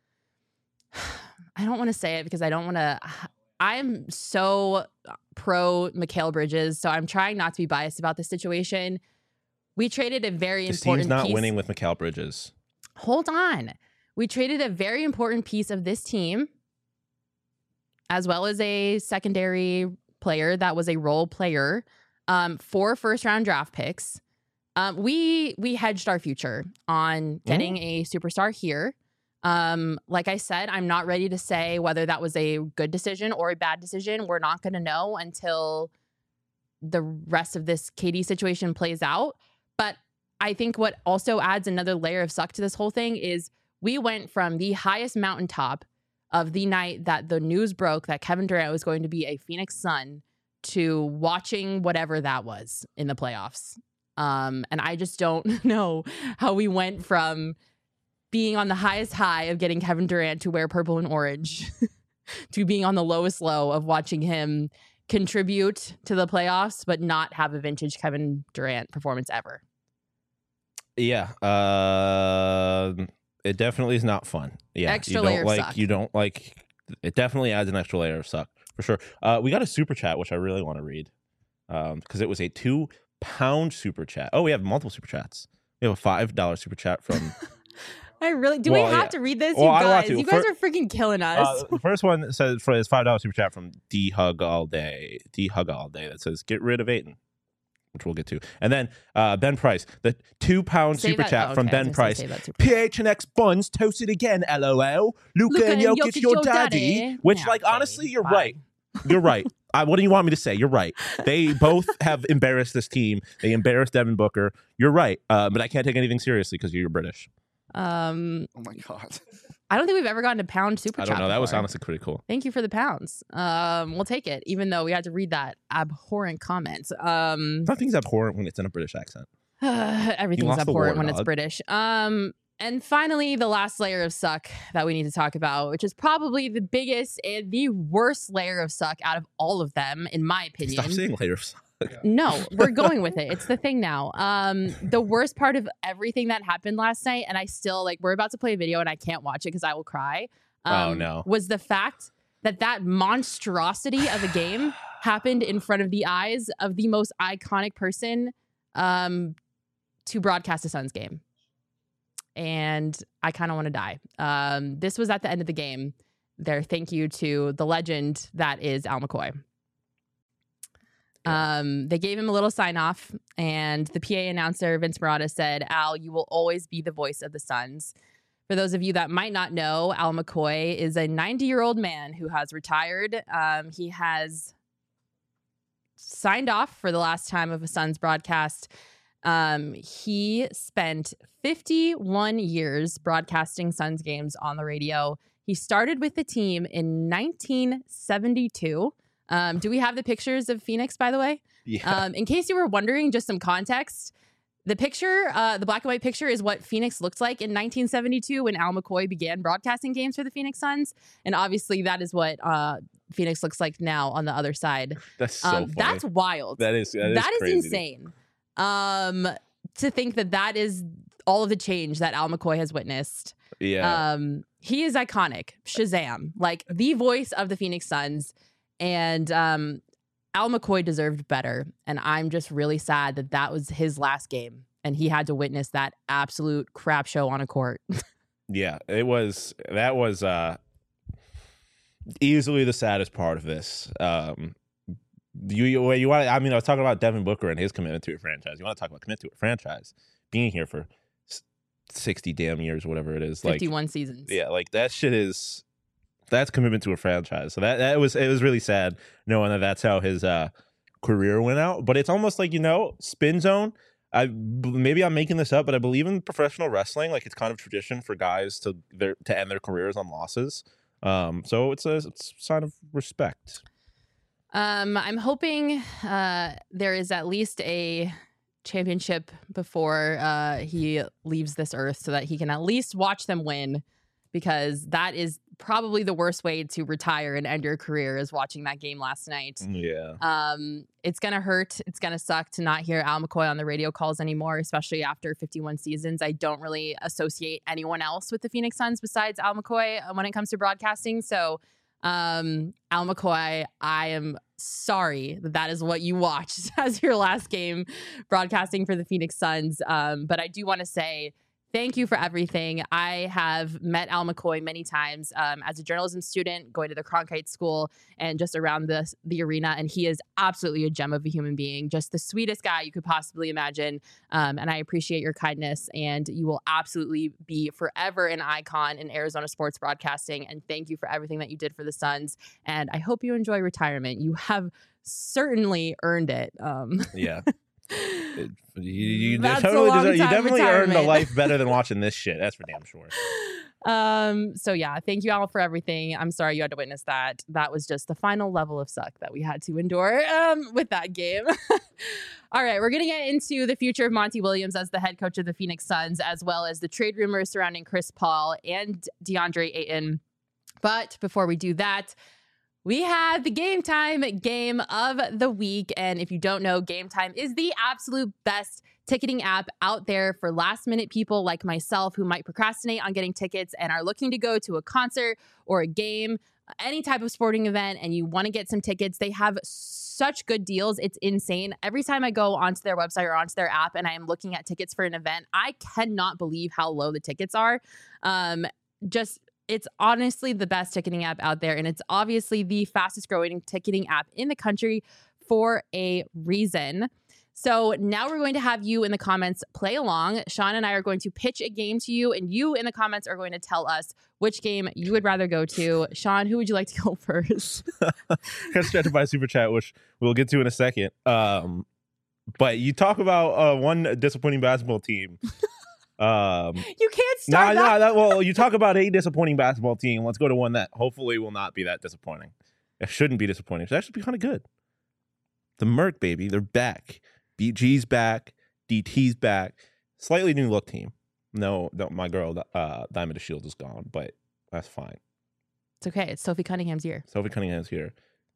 I don't want to say it because I don't want to I'm so pro Mikal Bridges, so I'm trying not to be biased about the situation. We traded a very This important team's not piece. winning with Mikal Bridges. Hold on. We traded a very important piece of this team, as well as a secondary player that was a role player, um, for first round draft picks. Um, we we hedged our future on getting a superstar here. Um, like I said, I'm not ready to say whether that was a good decision or a bad decision. We're not going to know until the rest of this K D situation plays out. But I think what also adds another layer of suck to this whole thing is we went from the highest mountaintop of the night that the news broke that Kevin Durant was going to be a Phoenix Sun to watching whatever that was in the playoffs. Um, and I just don't know how we went from being on the highest high of getting Kevin Durant to wear purple and orange to being on the lowest low of watching him contribute to the playoffs, but not have a vintage Kevin Durant performance ever. Yeah, uh, it definitely is not fun. Yeah, Extra you don't layer of like suck. you don't like. It definitely adds an extra layer of suck For sure. Uh, we got a super chat, which I really want to read um, because it was a two pound super chat. Oh, we have multiple super chats. We have a five dollar super chat from. I really do. Well, we have yeah. to read this, Well, you I want guys. to. You guys For- are freaking killing us. Uh, the first one says for his five dollar super chat from D Hug All Day. D Hug All Day that says get rid of Aiden, which we'll get to. And then uh, Ben Price, the two pound Save super that- chat oh, from okay, I was Ben gonna Price. say save that super P H N X buns toasted again, LOL. Luca, Luka and and Jokic, Jokic, your your daddy. daddy. Which, Yeah, like, okay, honestly, you're fine. right. You're right. I, what do you want me to say? You're right. They both have embarrassed this team. They embarrassed Devin Booker. You're right. Uh, but I can't take anything seriously because you're British. Um, Oh my god. I don't think we've ever gotten a pound super I chat don't know. That was before. honestly pretty cool. Thank you for the pounds. Um, we'll take it, even though we had to read that abhorrent comment. Um, Nothing's abhorrent when it's in a British accent. everything's lost the abhorrent war, when it's dog. British. Um, and finally, the last layer of suck that we need to talk about, which is probably the biggest and the worst layer of suck out of all of them, in my opinion. Stop saying later. No, we're going with it. It's the thing now. Um, the worst part of everything that happened last night, and I still like, we're about to play a video and I can't watch it because I will cry. Um, Oh, no. Was the fact that that monstrosity of a game happened in front of the eyes of the most iconic person um, to broadcast a Suns game. And I kind of want to die. Um, this was at the end of the game. Their thank you to the legend that is Al McCoy. Um, they gave him a little sign off, and the P A announcer, Vince Marotta, said, Al, you will always be the voice of the Suns. For those of you that might not know, Al McCoy is a ninety year old man who has retired. Um, he has signed off for the last time of a Suns broadcast. Um, he spent fifty-one years broadcasting Suns games on the radio. He started with the team in nineteen seventy-two. Um, do we have the pictures of Phoenix, by the way? Yeah. Um, in case you were wondering, just some context. The picture, uh, the black and white picture is what Phoenix looked like in nineteen seventy-two when Al McCoy began broadcasting games for the Phoenix Suns. And obviously that is what uh, Phoenix looks like now on the other side. That's so Um, funny. that's wild. That is that is, That is crazy. insane. Um, to think that that is all of the change that Al McCoy has witnessed. Yeah. Um, he is iconic. Shazam. Like the voice of the Phoenix Suns. And um, Al McCoy deserved better. And I'm just really sad that that was his last game. And he had to witness that absolute crap show on a court. Yeah, it was that was uh easily the saddest part of this. Um you you, you want I mean I was talking about Devin Booker and his commitment to a franchise. You want to talk about commitment to a franchise, being here for sixty damn years, whatever it is. Like fifty-one seasons. yeah, like that shit is that's commitment to a franchise. So that that was it was really sad knowing that that's how his uh career went out. But it's almost like, you know, Spin Zone. I maybe I'm making this up, but I believe in professional wrestling. Like it's kind of tradition for guys to their to end their careers on losses. Um, so it's a, it's a sign of respect. Um, I'm hoping uh, there is at least a championship before uh, he leaves this earth so that he can at least watch them win, because that is probably the worst way to retire and end your career, is watching that game last night. Yeah. Um, it's going to hurt. It's going to suck to not hear Al McCoy on the radio calls anymore, especially after fifty-one seasons. I don't really associate anyone else with the Phoenix Suns besides Al McCoy when it comes to broadcasting. So, um, Al McCoy, I am sorry that that is what you watched as your last game broadcasting for the Phoenix Suns. Um, but I do want to say thank you for everything. I have met Al McCoy many times um, as a journalism student, going to the Cronkite School and just around the, the arena. And he is absolutely a gem of a human being, just the sweetest guy you could possibly imagine. Um, and I appreciate your kindness, and you will absolutely be forever an icon in Arizona sports broadcasting. And thank you for everything that you did for the Suns. And I hope you enjoy retirement. You have certainly earned it. Um, Yeah. It, you you That's a totally long deserve, you time definitely earned a retirement. life better than watching this shit. That's for damn sure. Um, so yeah, thank you all for everything. I'm sorry you had to witness that. That was just the final level of suck that we had to endure um, with that game. All right, we're going to get into the future of Monty Williams as the head coach of the Phoenix Suns, as well as the trade rumors surrounding Chris Paul and DeAndre Ayton. But before we do that, we have the Game Time game of the week. And if you don't know, Game Time is the absolute best ticketing app out there for last minute people like myself who might procrastinate on getting tickets and are looking to go to a concert or a game, any type of sporting event, and you want to get some tickets. They have such good deals. It's insane. Every time I go onto their website or onto their app and I am looking at tickets for an event, I cannot believe how low the tickets are. Um, just It's honestly the best ticketing app out there, and it's obviously the fastest growing ticketing app in the country for a reason. So now we're going to have you in the comments play along. Sean and I are going to pitch a game to you, and you in the comments are going to tell us which game you would rather go to. Sean, who would you like to go first? Got stretched by super chat, which we'll get to in a second. Um, but you talk about uh, one disappointing basketball team. Um, you can't start nah, that. Nah, that. Well, you talk about a disappointing basketball team. Let's go to one that hopefully will not be that disappointing. It shouldn't be disappointing. It should actually be kind of good. The Merc, baby. They're back. B G's back. D T's back. Slightly new look team. No, no my girl, uh, Diamond Shield is gone, but that's fine. It's okay. It's Sophie Cunningham's year. Sophie Cunningham's here.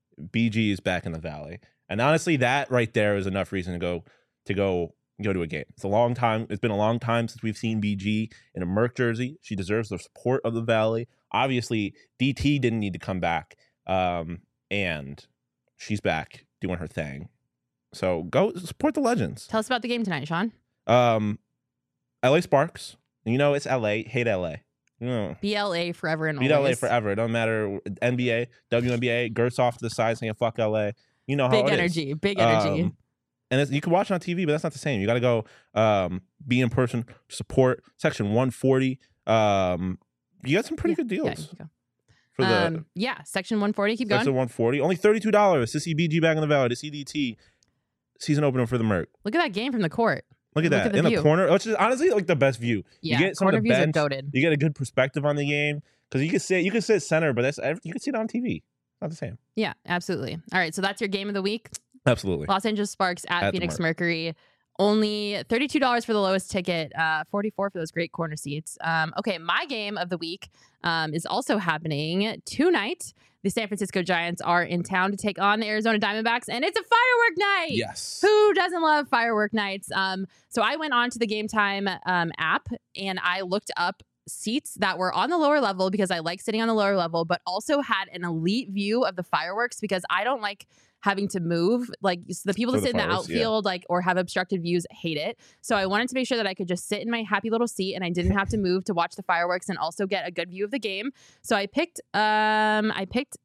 B G is back in the Valley. And honestly, that right there is enough reason to go to go go to a game. It's a long time. It's been a long time since we've seen B G in a Merc jersey. She deserves the support of the Valley. Obviously, D T didn't need to come back. Um, and she's back doing her thing. So go support the legends. Tell us about the game tonight, Sean. Um, L A Sparks. You know, it's L A. Hate L A. You know, B L A forever and beat always. L A forever. It don't matter. N B A, W N B A, Gertz off to the side saying fuck L A. You know how big it energy, is. big energy. Um, and it's, you can watch it on T V, but that's not the same. You got to go um, be in person, support. Section one forty. Um, you got some pretty Yeah, good yeah, deals you can go. for the Um, yeah, section one forty. Keep going. Section one forty. Only thirty-two dollars to see B G back in the Valley, to see D T season opener for the Merc. Look at that game from the court. Look at Look that at the in view. the corner, which is honestly like the best view. Yeah, you get some corner of the views bench, are goated. you get a good perspective on the game because you can sit you can sit center, but that's you can see it on T V. Not the same. Yeah, absolutely. All right, so that's your game of the week. Absolutely. Los Angeles Sparks at, At the Phoenix Merc. Mercury. Only thirty-two dollars for the lowest ticket, uh, forty-four dollars for those great corner seats. Um, okay, my game of the week um, is also happening tonight. The San Francisco Giants are in town to take on the Arizona Diamondbacks, and it's a firework night. Yes. Who doesn't love firework nights? Um, so I went on to the Game Time um, app and I looked up seats that were on the lower level because I like sitting on the lower level, but also had an elite view of the fireworks because I don't like having to move. Like the people For that the sit in the fireworks, yeah. outfield, like or have obstructed views, hate it. So I wanted to make sure that I could just sit in my happy little seat and I didn't have to move to watch the fireworks and also get a good view of the game. So I picked um I picked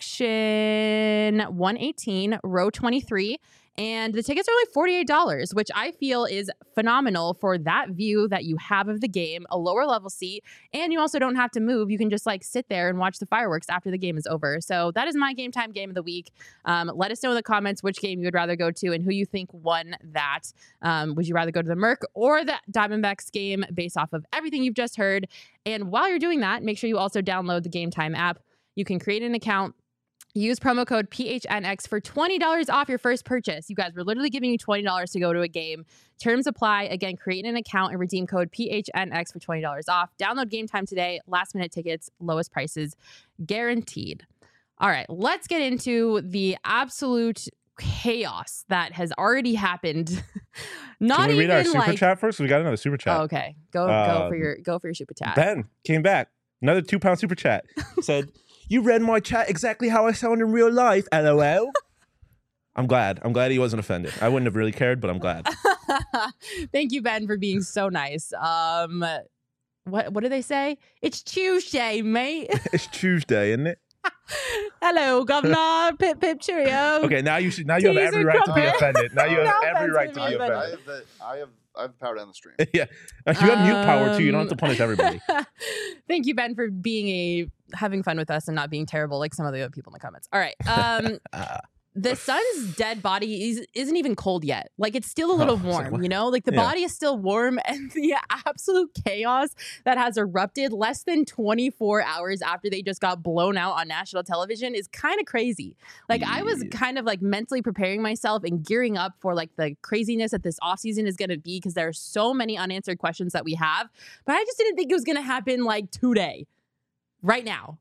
section one eighteen, row twenty-three. And the tickets are only forty-eight dollars, which I feel is phenomenal for that view that you have of the game, a lower level seat, and you also don't have to move. You can just like sit there and watch the fireworks after the game is over. So that is my Game Time game of the week. Um, let us know in the comments which game you would rather go to and who you think won that. Um, would you rather go to the Merc or the Diamondbacks game based off of everything you've just heard? And while you're doing that, make sure you also download the Game Time app. You can create an account. Use promo code P H N X for twenty dollars off your first purchase. You guys, we're literally giving you twenty dollars to go to a game. Terms apply. Again, create an account and redeem code P H N X for twenty dollars off. Download Game Time today. Last minute tickets, lowest prices guaranteed. All right, let's get into the absolute chaos that has already happened. Not Can we read even our super like chat first? We got another super chat. Oh, okay. Go go Um, for your go for your super chat. Ben came back. Another two pound super chat. Said, "You read my chat exactly how I sound in real life. L O L." I'm glad. I'm glad he wasn't offended. I wouldn't have really cared, but I'm glad. Thank you, Ben, for being so nice. Um, what what do they say? It's Tuesday, mate. It's Tuesday, isn't it? Hello, Governor. Pip pip cheerio. Okay, now you should. Now you have Teaser every right to be crumpet. offended. Now you have No every offense right to to me, be but- I offended. have the I have I have power down the stream. Yeah, you got mute power too. You don't have to Um, punish everybody. Thank you, Ben, for being a having fun with us and not being terrible like some of the other people in the comments. All right. Um, Uh, the sun's dead body is, isn't even cold yet. Like it's still a little Oh, so warm, what? you know, like the Yeah. body is still warm and the absolute chaos that has erupted less than twenty-four hours after they just got blown out on national television is kind of crazy. Like I was Yeah. kind of like mentally preparing myself and gearing up for like the craziness that this offseason is going to be because there are so many unanswered questions that we have, but I just didn't think it was going to happen like today, right now.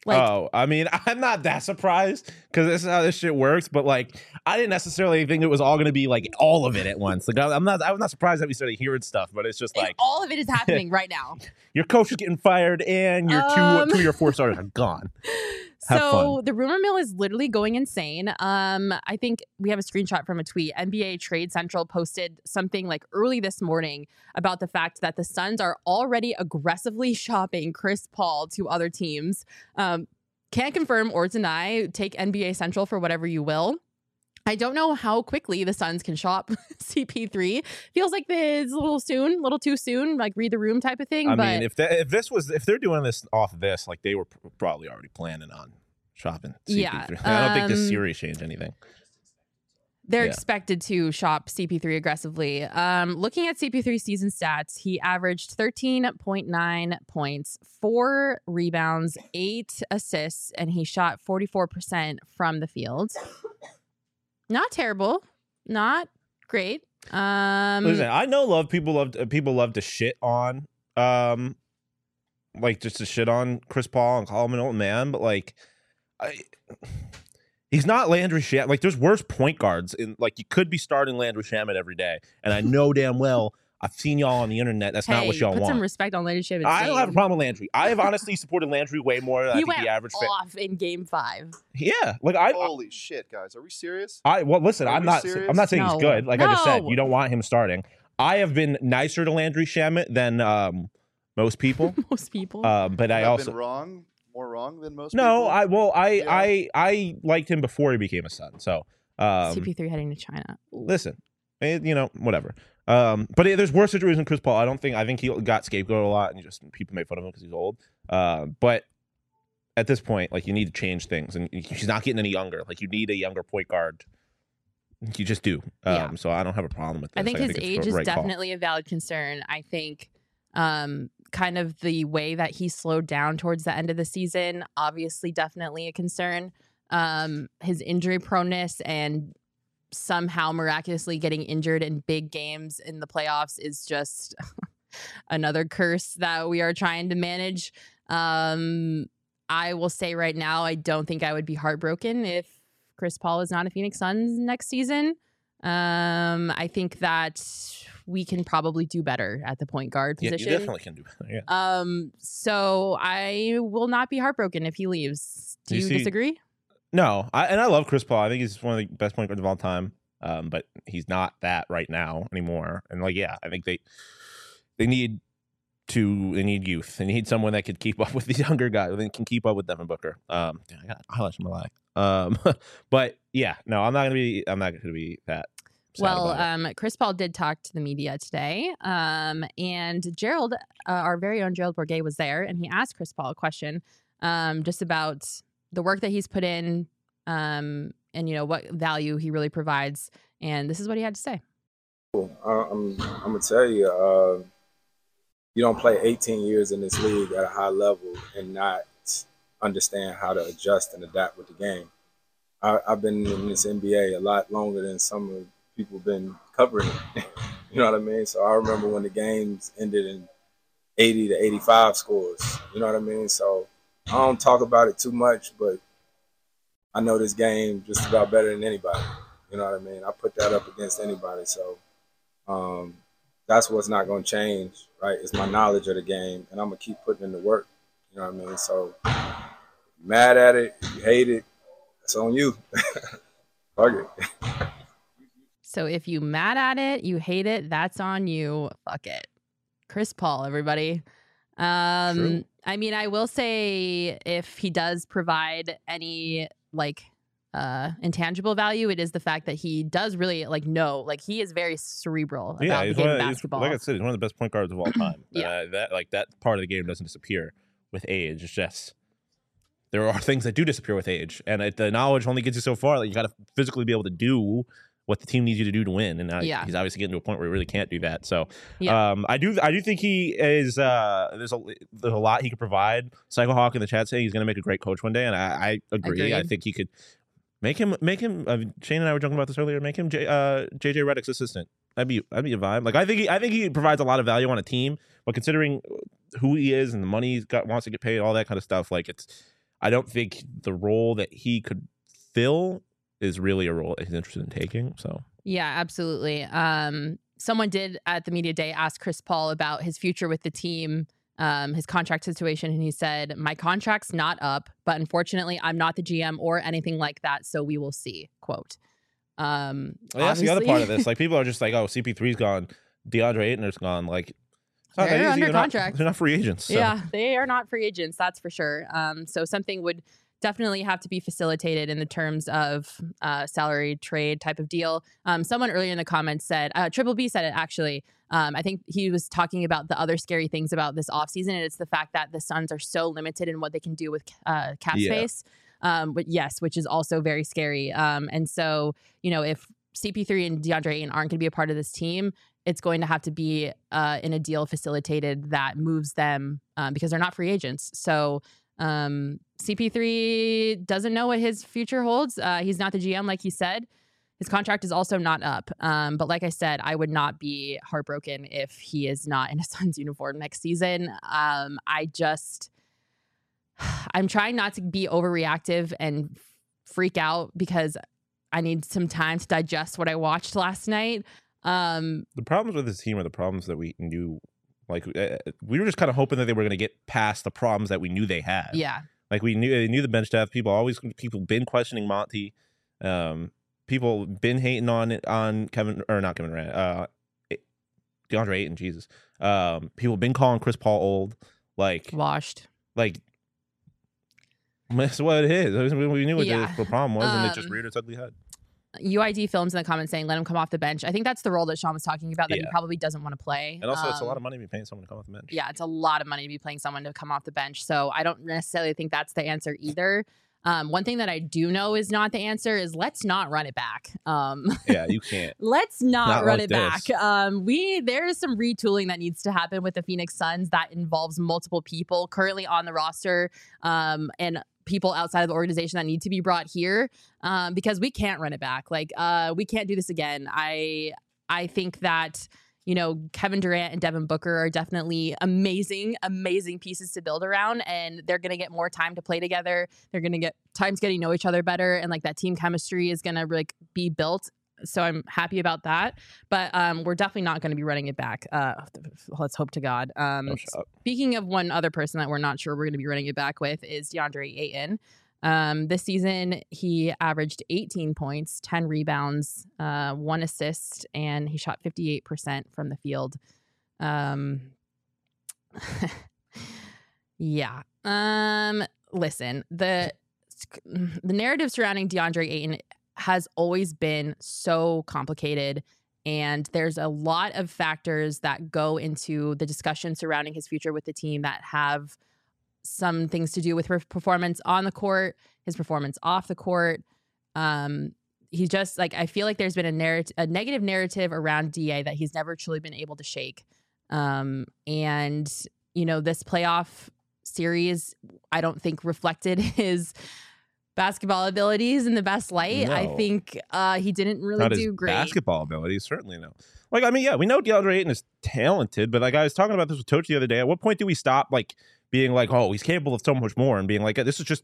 Like, oh, I mean, I'm not that surprised because this is how this shit works. But like, I didn't necessarily think it was all going to be like all of it at once. Like, I'm not, I'm not surprised that we started hearing stuff. But it's just and like all of it is happening right now. your coach is getting fired and your Um, two, two of your four starters are gone. Have So fun. the rumor mill is literally going insane. Um, I think we have a screenshot from a tweet. N B A Trade Central posted something like early this morning about the fact that the Suns are already aggressively shopping Chris Paul to other teams. Um, can't confirm or deny. Take N B A Central for whatever you will. I don't know how quickly the Suns can shop C P three. Feels like it's a little soon, a little too soon, like read the room type of thing. I but mean, if that, if this was if they're doing this off of this, like they were pr- probably already planning on shopping C P three. Yeah, I don't think this um, series changed anything. They're Yeah. expected to shop C P three aggressively. Um, looking at C P three's season stats, he averaged thirteen point nine points, four rebounds, eight assists, and he shot forty-four percent from the field. Not terrible. Not great. Um, Listen, I know love people love uh, people love to shit on um like just to shit on Chris Paul and call him an old man, but like I he's not Landry Shamet. Like there's worse point guards in like you could be starting Landry Shamet every day. And I know damn well I've seen y'all on the internet. That's hey, not what y'all put want. some respect on Landry Shamet's I don't have a name. problem with Landry. I have honestly supported Landry way more than I He think went the average fan. off in game five. Yeah, like I, Holy shit, guys. Are we serious? I well listen. Are I'm we not. serious? I'm not saying No. he's good. Like I just said, No. you don't want him starting. I have been nicer to Landry Shamet than um, most people. Most people. Um, but I I've also been wrong, more wrong than most no. people. I well, I Yeah. I I liked him before he became a Sun. So um, C P three heading to China. Ooh. listen, eh, you know, whatever. Um, but eh, there's worse situations than Chris Paul. I don't think. I think he got scapegoated a lot, and just people make fun of him because he's old. Uh, but at this point, like you need to change things, and he's not getting any younger. Like you need a younger point guard. You just do. Um, Yeah. So I don't have a problem with this. I think his it's the age is right call. definitely a valid concern. I think um, kind of the way that he slowed down towards the end of the season, obviously, definitely a concern. Um, his injury proneness and somehow miraculously getting injured in big games in the playoffs is just another curse that we are trying to manage. Um, I will say right now, I don't think I would be heartbroken if Chris Paul is not a Phoenix Suns next season. Um, I think that we can probably do better at the point guard Yeah, position. you definitely can do better. Yeah. Um, so I will not be heartbroken if he leaves. Do You you, see- disagree? No, I, and I love Chris Paul. I think he's one of the best point guards of all time. Um, but he's not that right now anymore. And like, yeah, I think they they need to they need youth. They need someone that could keep up with these younger guys. They can keep up with Devin Booker. Um, damn, I got highlights in my life. Um, but yeah, no, I'm not gonna be. I'm not gonna be that. sad Well, about it. um, Chris Paul did talk to the media today, um, and Gerald, uh, our very own Gerald Bourget, was there, and he asked Chris Paul a question um, just about the work that he's put in, um, and you know what value he really provides. And this is what he had to say. Uh, I'm, I'm gonna tell you, uh, you don't play eighteen years in this league at a high level and not understand how to adjust and adapt with the game. I, I've been in this N B A a lot longer than some of the people been covering it. You know what I mean? So I remember when the games ended in eighty to eighty-five scores. You know what I mean? So I don't talk about it too much, but I know this game just about better than anybody. You know what I mean? I put that up against anybody. So um, that's what's not going to change, right? It's my knowledge of the game, and I'm going to keep putting in the work. You know what I mean? So mad at it, if you hate it, it's on you. Fuck it. So if you mad at it, you hate it, that's on you. Fuck it. Chris Paul, everybody. Um, True. I mean, I will say if he does provide any like uh intangible value, it is the fact that he does really like know, like he is very cerebral about yeah, the he's game one of of, he's, basketball. like I said, he's one of the best point guards of all time. Yeah. uh, that like that part of the game doesn't disappear with age. It's just there are things that do disappear with age, and it, the knowledge only gets you so far. Like you got to physically be able to do what the team needs you to do to win, and uh, Yeah. he's obviously getting to a point where he really can't do that. So, Yeah. um, I do, I do think he is. Uh, there's a there's a lot he could provide. Psycho Hawk in the chat saying he's going to make a great coach one day, and I, I agree. I Agreed. think he could make him make him. Uh, Shane and I were talking about this earlier. Make him J, uh, J J Redick's assistant. That'd be that'd be a vibe. Like I think he, I think he provides a lot of value on a team, but considering who he is and the money he's got wants to get paid, all that kind of stuff, like it's. I don't think the role that he could fill is really a role that he's interested in taking. So yeah, absolutely. Um, someone did at the media day ask Chris Paul about his future with the team, um, his contract situation, and he said, "My contract's not up, but unfortunately, I'm not the G M or anything like that. So we will see." Quote. Um, well, that's the other part of this. Like people are just like, "Oh, C P three's gone, DeAndre Ayton's gone." Like it's not that they're easy. under they're contract. Not, they're not free agents. So. Yeah, they are not free agents. That's for sure. Um, so something would definitely have to be facilitated in the terms of uh, salary trade type of deal. Um, someone earlier in the comments said, uh, Triple B said it actually. Um, I think he was talking about the other scary things about this offseason, and it's the fact that the Suns are so limited in what they can do with uh, cap Yeah. space. Um, but yes, which is also very scary. Um, and so, you know, if C P three and DeAndre Ayton aren't going to be a part of this team, it's going to have to be uh, in a deal facilitated that moves them um, because they're not free agents. So um, C P three doesn't know what his future holds. Uh, he's not the G M, like he said. His contract is also not up. Um, but like I said, I would not be heartbroken if he is not in a Suns uniform next season. Um, I just, I'm trying not to be overreactive and freak out because I need some time to digest what I watched last night. Um, the problems with this team are the problems that we knew. Like uh, we were just kind of hoping that they were going to get past the problems that we knew they had. Yeah. Like we knew they knew the bench depth. People always people been questioning Monty. Um, people been hating on it on Kevin or not Kevin Durant. Uh, DeAndre Ayton. Jesus. Um, people been calling Chris Paul old. Like washed. Like that's what it is. We knew what Yeah. the, the problem was, and it just Um, reared its ugly head. U I D Films in the comments saying, let him come off the bench. I think that's the role that Sean was talking about that he Yeah. probably doesn't want to play. And also, it's a Um, lot of money to be paying someone to come off the bench. Yeah, it's a lot of money to be paying someone to come off the bench. So I don't necessarily think that's the answer either. Um, one thing that I do know is not the answer is let's not run it back. Um, Yeah, you can't. let's not, Not run like it back. this. Um, we there is some retooling that needs to happen with the Phoenix Suns that involves multiple people currently on the roster um, and people outside of the organization that need to be brought here um, because we can't run it back. Like uh, we can't do this again. I I think that. You know, Kevin Durant and Devin Booker are definitely amazing, amazing pieces to build around, and they're going to get more time to play together. They're going to get times getting to know each other better, and like that team chemistry is going to like be built. So I'm happy about that. But um, we're definitely not going to be running it back. Uh, let's hope to God. Um, Oh, shut up. speaking of one other person that we're not sure we're going to be running it back with is DeAndre Ayton. Um, this season, he averaged eighteen points, ten rebounds, uh, one assist, and he shot fifty-eight percent from the field. Um, yeah. Um, listen, the the narrative surrounding DeAndre Ayton has always been so complicated, and there's a lot of factors that go into the discussion surrounding his future with the team that have some things to do with her performance on the court, his performance off the court. Um, he's just like, I feel like there's been a narrative, a negative narrative around D A that he's never truly been able to shake. Um, and, you know, this playoff series, I don't think reflected his basketball abilities in the best light. I No. think uh, he didn't really Not do his great. basketball abilities, certainly no. Like, I mean, yeah, we know DeAndre Ayton is talented, but like I was talking about this with Toach the other day. At what point do we stop like being like, oh, he's capable of so much more, and being like, this is just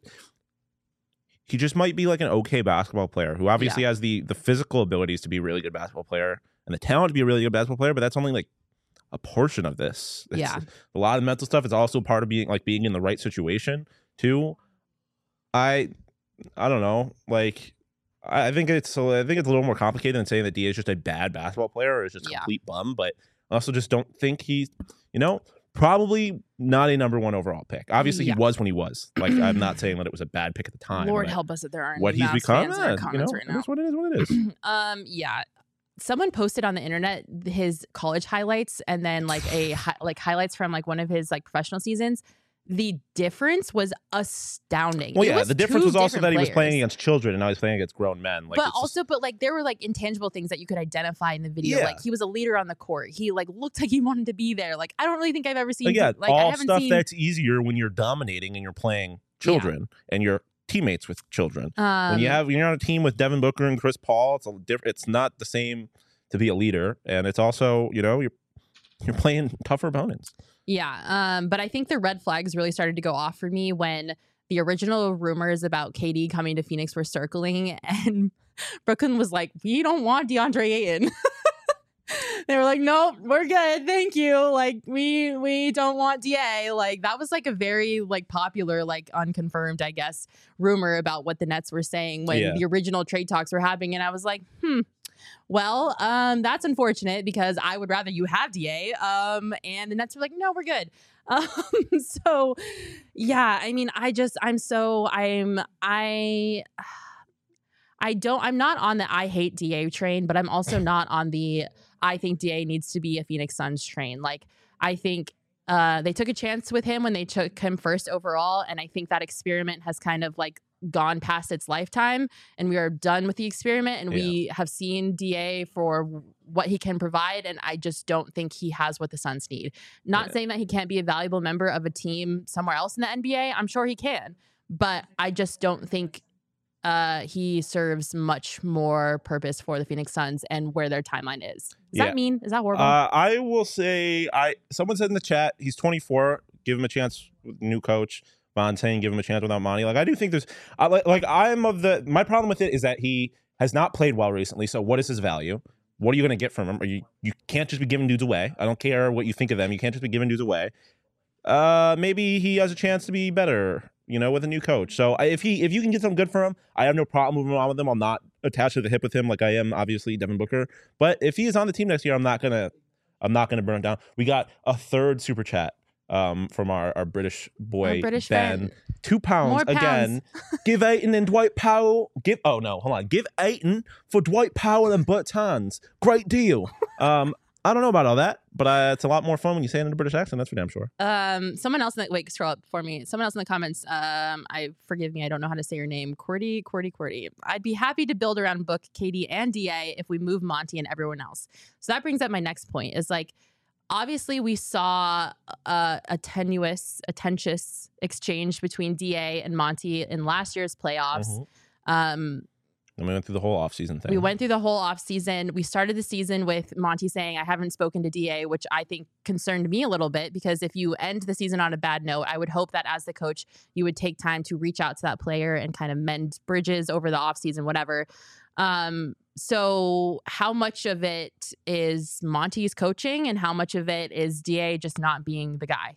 he just might be like an okay basketball player who obviously has the the physical abilities to be a really good basketball player and the talent to be a really good basketball player, but that's only like a portion of this. It's Yeah. a lot of mental stuff. It's also part of being like being in the right situation too. I I don't know. Like I I think it's I think it's a little more complicated than saying that D A is just a bad basketball player or is just a Yeah. complete bum. But I also just don't think he's, you know, probably not a number one overall pick. Obviously, Yeah. he was when he was. Like I'm not saying that it was a bad pick at the time. Lord but help us that there aren't what any he's Mavs become, fans in our eh, you know, comments right now. that's what it is. What it is. Um, yeah. Someone posted on the internet his college highlights and then like a hi- like highlights from like one of his like professional seasons. The difference was astounding. Well, It yeah, was the difference two was also different that he was players. playing against children and now he's playing against grown men. Like, but it's just- also, but like there were like intangible things that you could identify in the video. Yeah. Like he was a leader on the court. He like looked like he wanted to be there. Like I don't really think I've ever seen. Like, yeah, like I all haven't stuff seen. that's easier when you're dominating and you're playing children and you're teammates with children. um, when you have when you're on a team with Devin Booker and Chris Paul, it's a different. It's not the same to be a leader, and it's also, you know, you're you're playing tougher opponents. Yeah, um, but I think the red flags really started to go off for me when the original rumors about K D coming to Phoenix were circling, and Brooklyn was like, we don't want DeAndre Ayton. They were like, nope, we're good, thank you. Like, we we don't want D A. Like, that was like a very like popular, like unconfirmed, I guess, rumor about what the Nets were saying when Yeah. the original trade talks were happening. And I was like, hmm, well, um, that's unfortunate because I would rather you have D A. Um, and the Nets were like, no, we're good. Um, so yeah, I mean, I just, I'm so, I'm, I, I don't, I'm not on the I hate D A train, but I'm also not on the I think D A needs to be a Phoenix Suns train. Like, I think uh, they took a chance with him when they took him first overall. And I think that experiment has kind of like gone past its lifetime, and we are done with the experiment. And Yeah. we have seen D A for what he can provide. And I just don't think he has what the Suns need. Not Yeah. saying that he can't be a valuable member of a team somewhere else in the N B A. I'm sure he can, but I just don't think uh, he serves much more purpose for the Phoenix Suns and where their timeline is. Does Yeah. that mean? Is that horrible? Uh, I will say, I someone said in the chat, he's twenty-four. Give him a chance with new coach. Fontaine, give him a chance without Monty. Like, I do think there's, I, like, like I'm of the, my problem with it is that he has not played well recently. So what is his value? What are you going to get from him? Are you, you can't just be giving dudes away. I don't care what you think of them. You can't just be giving dudes away. Uh, maybe he has a chance to be better, you know, with a new coach. So I, if he, if you can get something good for him, I have no problem moving on with him. I'm not attached to the hip with him like I am, obviously, Devin Booker. But if he is on the team next year, I'm not gonna, I'm not gonna burn it down. We got a third super chat um, from our, our British boy Our British Ben. fan. Two pounds More again. Give Ayton and Dwight Powell. Give oh no, hold on. Give Ayton for Dwight Powell and Bertans. Great deal. Um, I don't know about all that, but uh, it's a lot more fun when you say it in a British accent. That's for damn sure. Um, someone else in the wait, scroll up for me. Someone else in the comments. Um, I forgive me, I don't know how to say your name. Cordy, Cordy, Cordy. I'd be happy to build around Book, K D, and D A if we move Monty and everyone else. So that brings up my next point. Is like, obviously we saw a, a tenuous, a tenuous exchange between D A and Monty in last year's playoffs. Mhm. Um. And we went through the whole offseason thing. We went through the whole offseason. We started the season with Monty saying, I haven't spoken to D A, which I think concerned me a little bit, because if you end the season on a bad note, I would hope that as the coach, you would take time to reach out to that player and kind of mend bridges over the offseason, whatever. Um, so how much of it is Monty's coaching and how much of it is D A just not being the guy?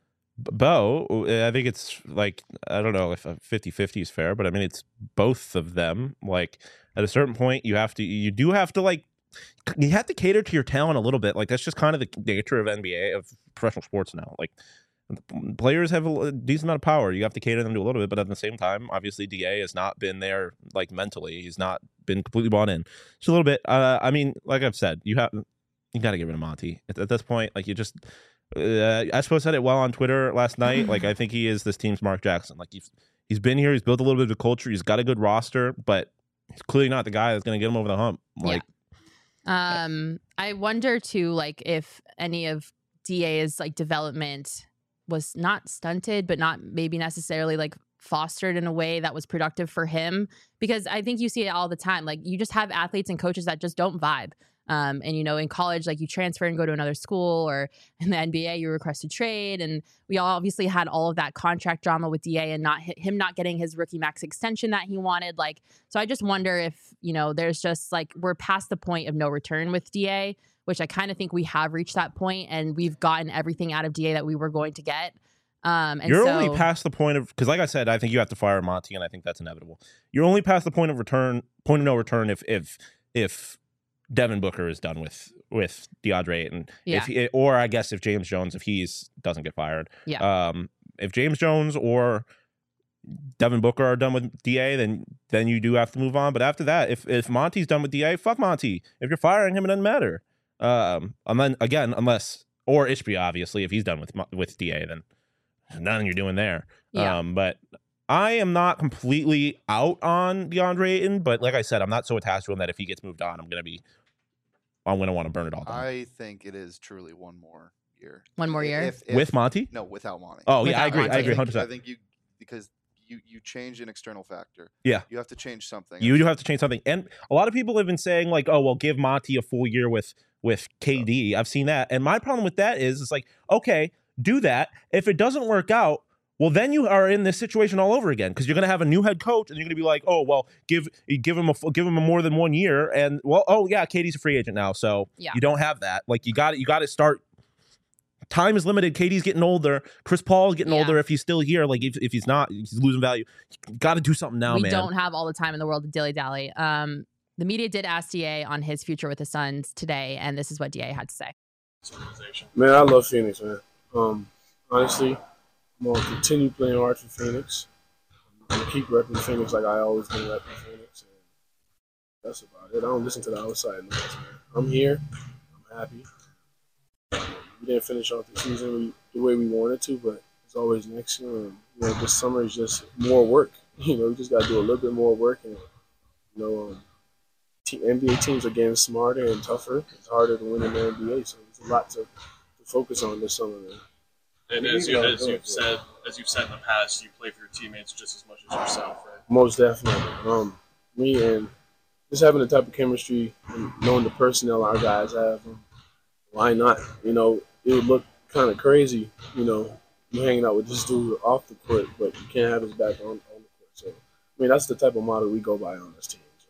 Bo, I think it's like, I don't know if fifty-fifty is fair, but I mean, it's both of them. Like, at a certain point, you have to, you do have to, like, you have to cater to your talent a little bit. Like, that's just kind of the nature of N B A, of professional sports now. Like, players have a decent amount of power. You have to cater them to a little bit, but at the same time, obviously, D A has not been there, like, mentally. He's not been completely bought in. Just a little bit. Uh, I mean, like I've said, you have, you got to get rid of Monty. At, at this point, like, you just, Uh, I suppose said it well on Twitter last night. Like, I think he is this team's Mark Jackson. Like, he's he's been here, he's built a little bit of a culture, he's got a good roster, but he's clearly not the guy that's going to get him over the hump. Like, yeah. Um, I wonder too, like, if any of D A's like development was not stunted, but not maybe necessarily like fostered in a way that was productive for him, because I think you see it all the time. Like, you just have athletes and coaches that just don't vibe. Um, and, you know, in college, like, you transfer and go to another school, or in the N B A, you request a trade. And we all obviously had all of that contract drama with D A and not him not getting his rookie max extension that he wanted. Like, so I just wonder if, you know, there's just like, we're past the point of no return with D A, which I kind of think we have reached that point, and we've gotten everything out of D A that we were going to get. Um, and you're so, only past the point of, because like I said, I think you have to fire Monty, and I think that's inevitable. You're only past the point of return, point of no return, if if if Devin Booker is done with with DeAndre Ayton, Yeah. if he, or I guess if James Jones, if he's doesn't get fired, Yeah. Um, if James Jones or Devin Booker are done with D A, then then you do have to move on. But after that, if if Monty's done with D A, fuck Monty. If you're firing him, it doesn't matter. Um, and then again, unless or Ishbia, obviously, if he's done with with D A, then nothing you're doing there. Yeah. Um, but I am not completely out on DeAndre Ayton, but like I said, I'm not so attached to him that if he gets moved on, I'm gonna be, I'm gonna want to burn it all down. I think it is truly one more year. One more year? If, if, With Monty? No, without Monty. Oh yeah, I Without agree. I Monty. agree, I one hundred think, I percent. think you because you you change an external factor. Yeah. You have to change something. You do have to change something, and a lot of people have been saying like, "Oh, well, give Monty a full year with with K D." I've seen that, and my problem with that is, it's like, okay, do that. If it doesn't work out, well, then you are in this situation all over again because you're going to have a new head coach and you're going to be like, oh, well, give give him a give him a more than one year, and well, oh yeah, K D's a free agent now, so Yeah. you don't have that. Like you got you got to start. Time is limited. K D's getting older. Chris Paul's getting Yeah. older. If he's still here, like if, if he's not, he's losing value. Got to do something now, we man. don't have all the time in the world to dilly dally. Um, the media did ask D A on his future with the Suns today, and this is what D A had to say. Man, I love Phoenix, man. Um, honestly, I'm gonna continue playing hard for Phoenix. I'm gonna keep repping Phoenix like I always been repping Phoenix, and that's about it. I don't listen to the outside noise, man. I'm here. I'm happy. We didn't finish off the season the way we wanted to, but it's always next year. And, you know, this summer is just more work. You know, we just got to do a little bit more work, and you know, um, N B A teams are getting smarter and tougher. It's harder to win in the N B A, so there's a lot to, to focus on this summer, man. And as, you, as you've said, as you've said in the past, you play for your teammates just as much as yourself, right? Most definitely. Um, me and just having the type of chemistry and knowing the personnel our guys have, um, why not? You know, it would look kind of crazy, you know, you hanging out with this dude off the court, but you can't have his back on, on the court. So, I mean, that's the type of model we go by on this team. So.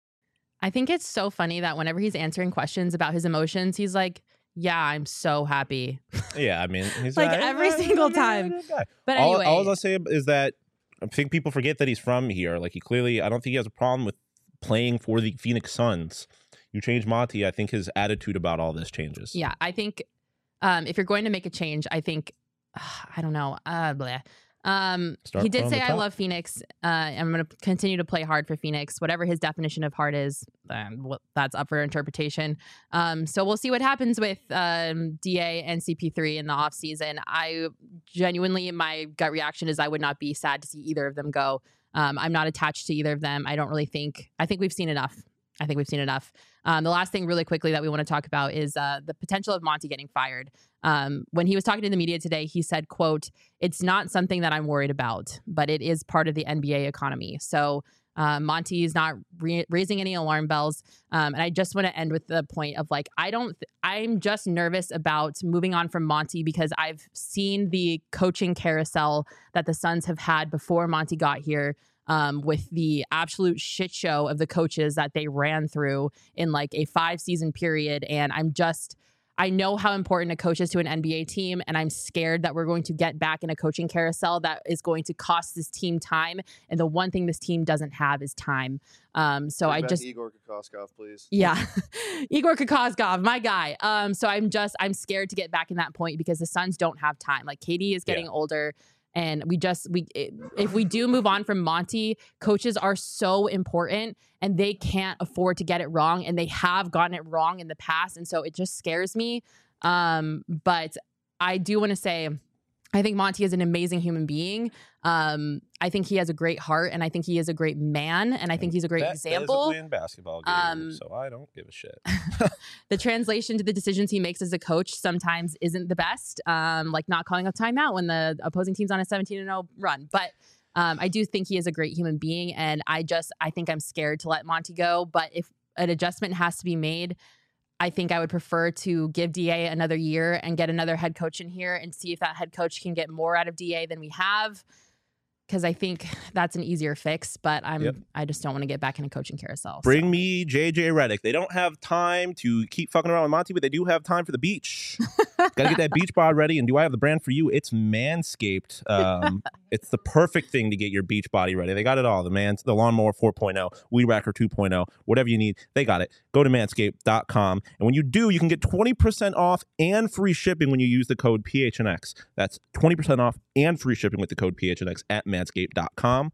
I think it's so funny that whenever he's answering questions about his emotions, he's like, yeah, I'm so happy. Yeah, I mean, he's Like, not- every he's not- single he's not a time. good guy. But all, anyway. all I'll say is that I think people forget that he's from here. Like he clearly, I don't think he has a problem with playing for the Phoenix Suns. You change Monty, I think his attitude about all this changes. Yeah, I think um, if you're going to make a change, I think, uh, I don't know. Uh, bleh. Um, Start he did from say, the I top. love Phoenix. Uh, I'm going to continue to play hard for Phoenix. Whatever his definition of hard is, um, well, that's up for interpretation. Um, so we'll see what happens with um, D A and C P three in the offseason. I genuinely, my gut reaction is I would not be sad to see either of them go. Um, I'm not attached to either of them. I don't really think, I think we've seen enough. I think we've seen enough. Um, the last thing really quickly that we want to talk about is uh, the potential of Monty getting fired. Um, when he was talking to the media today, he said, quote, "It's not something that I'm worried about, but it is part of the N B A economy." So uh, Monty is not re- raising any alarm bells. Um, and I just want to end with the point of like, I don't, th- I'm just nervous about moving on from Monty because I've seen the coaching carousel that the Suns have had before Monty got here. Um, with the absolute shit show of the coaches that they ran through in like a five season period. And I'm just, I know how important a coach is to an N B A team. And I'm scared that we're going to get back in a coaching carousel that is going to cost this team time. And the one thing this team doesn't have is time. Um, so Bring I back just, Igor Kokoskov, please. yeah, Igor Kokoskov, my guy. Um, so I'm just, I'm scared to get back in that point because the Suns don't have time. Like K D is getting Yeah. older. And we just, we if we do move on from Monty, coaches are so important and they can't afford to get it wrong. And they have gotten it wrong in the past. And so it just scares me. Um, but I do want to say, I think Monty is an amazing human being. Um, I think he has a great heart and I think he is a great man. And I think he's a great Bet example. physically in basketball game, Um, so I don't give a shit. The translation to the decisions he makes as a coach sometimes isn't the best, um, like not calling a timeout when the opposing team's on a seventeen and oh run. But um, I do think he is a great human being, and I just I think I'm scared to let Monty go. But if an adjustment has to be made, I think I would prefer to give D A another year and get another head coach in here and see if that head coach can get more out of D A than we have. Because I think that's an easier fix, but I'm Yep. I just don't want to get back in a coaching carousel. Bring so. me J J Redick. They don't have time to keep fucking around with Monty, but they do have time for the beach. Gotta get that beach bod ready. And do I have the brand for you? It's Manscaped. Um, it's the perfect thing to get your beach body ready. They got it all. The man, the lawnmower four point oh, Weed Whacker two point oh, whatever you need, they got it. Go to manscaped dot com. And when you do, you can get twenty percent off and free shipping when you use the code P H N X. That's twenty percent off and free shipping with the code P H N X at manscaped dot com.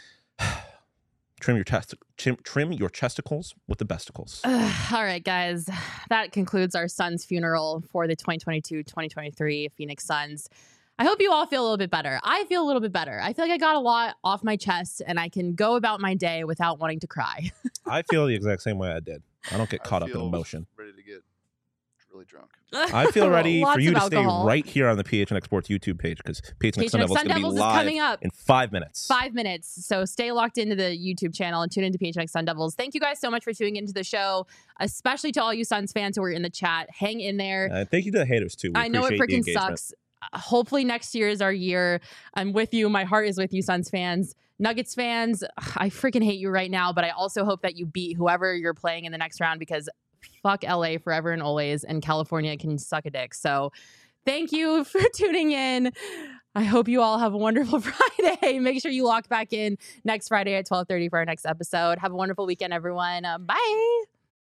Trim your test, trim, trim your chesticles with the besticles. Ugh, all right, guys. That concludes our son's funeral for the twenty twenty-two twenty twenty-three Phoenix Suns. I hope you all feel a little bit better. I feel a little bit better. I feel like I got a lot off my chest and I can go about my day without wanting to cry. I feel the exact same way I did. I don't get I caught up in feel emotion. Ready to get really drunk. I feel ready Lots for you of to stay alcohol. right here on the P H N X Sports YouTube page because P H N X Sun P H N X Devils is Sun going to be Devils is live coming up. in five minutes. Five minutes. So stay locked into the YouTube channel and tune into P H N X Sun Devils. Thank you guys so much for tuning into the show, especially to all you Suns fans who are in the chat. Hang in there. Uh, thank you to the haters too. We I know it appreciate the freaking engagement. sucks. hopefully next year is our year. I'm with you. My heart is with you, Suns fans. Nuggets fans, I freaking hate you right now, but I also hope that you beat whoever you're playing in the next round because fuck L A forever and always, and California can suck a dick. So thank you for tuning in. I hope you all have a wonderful Friday. Make sure you lock back in next Friday at twelve thirty for our next episode. Have a wonderful weekend, everyone. Uh, bye.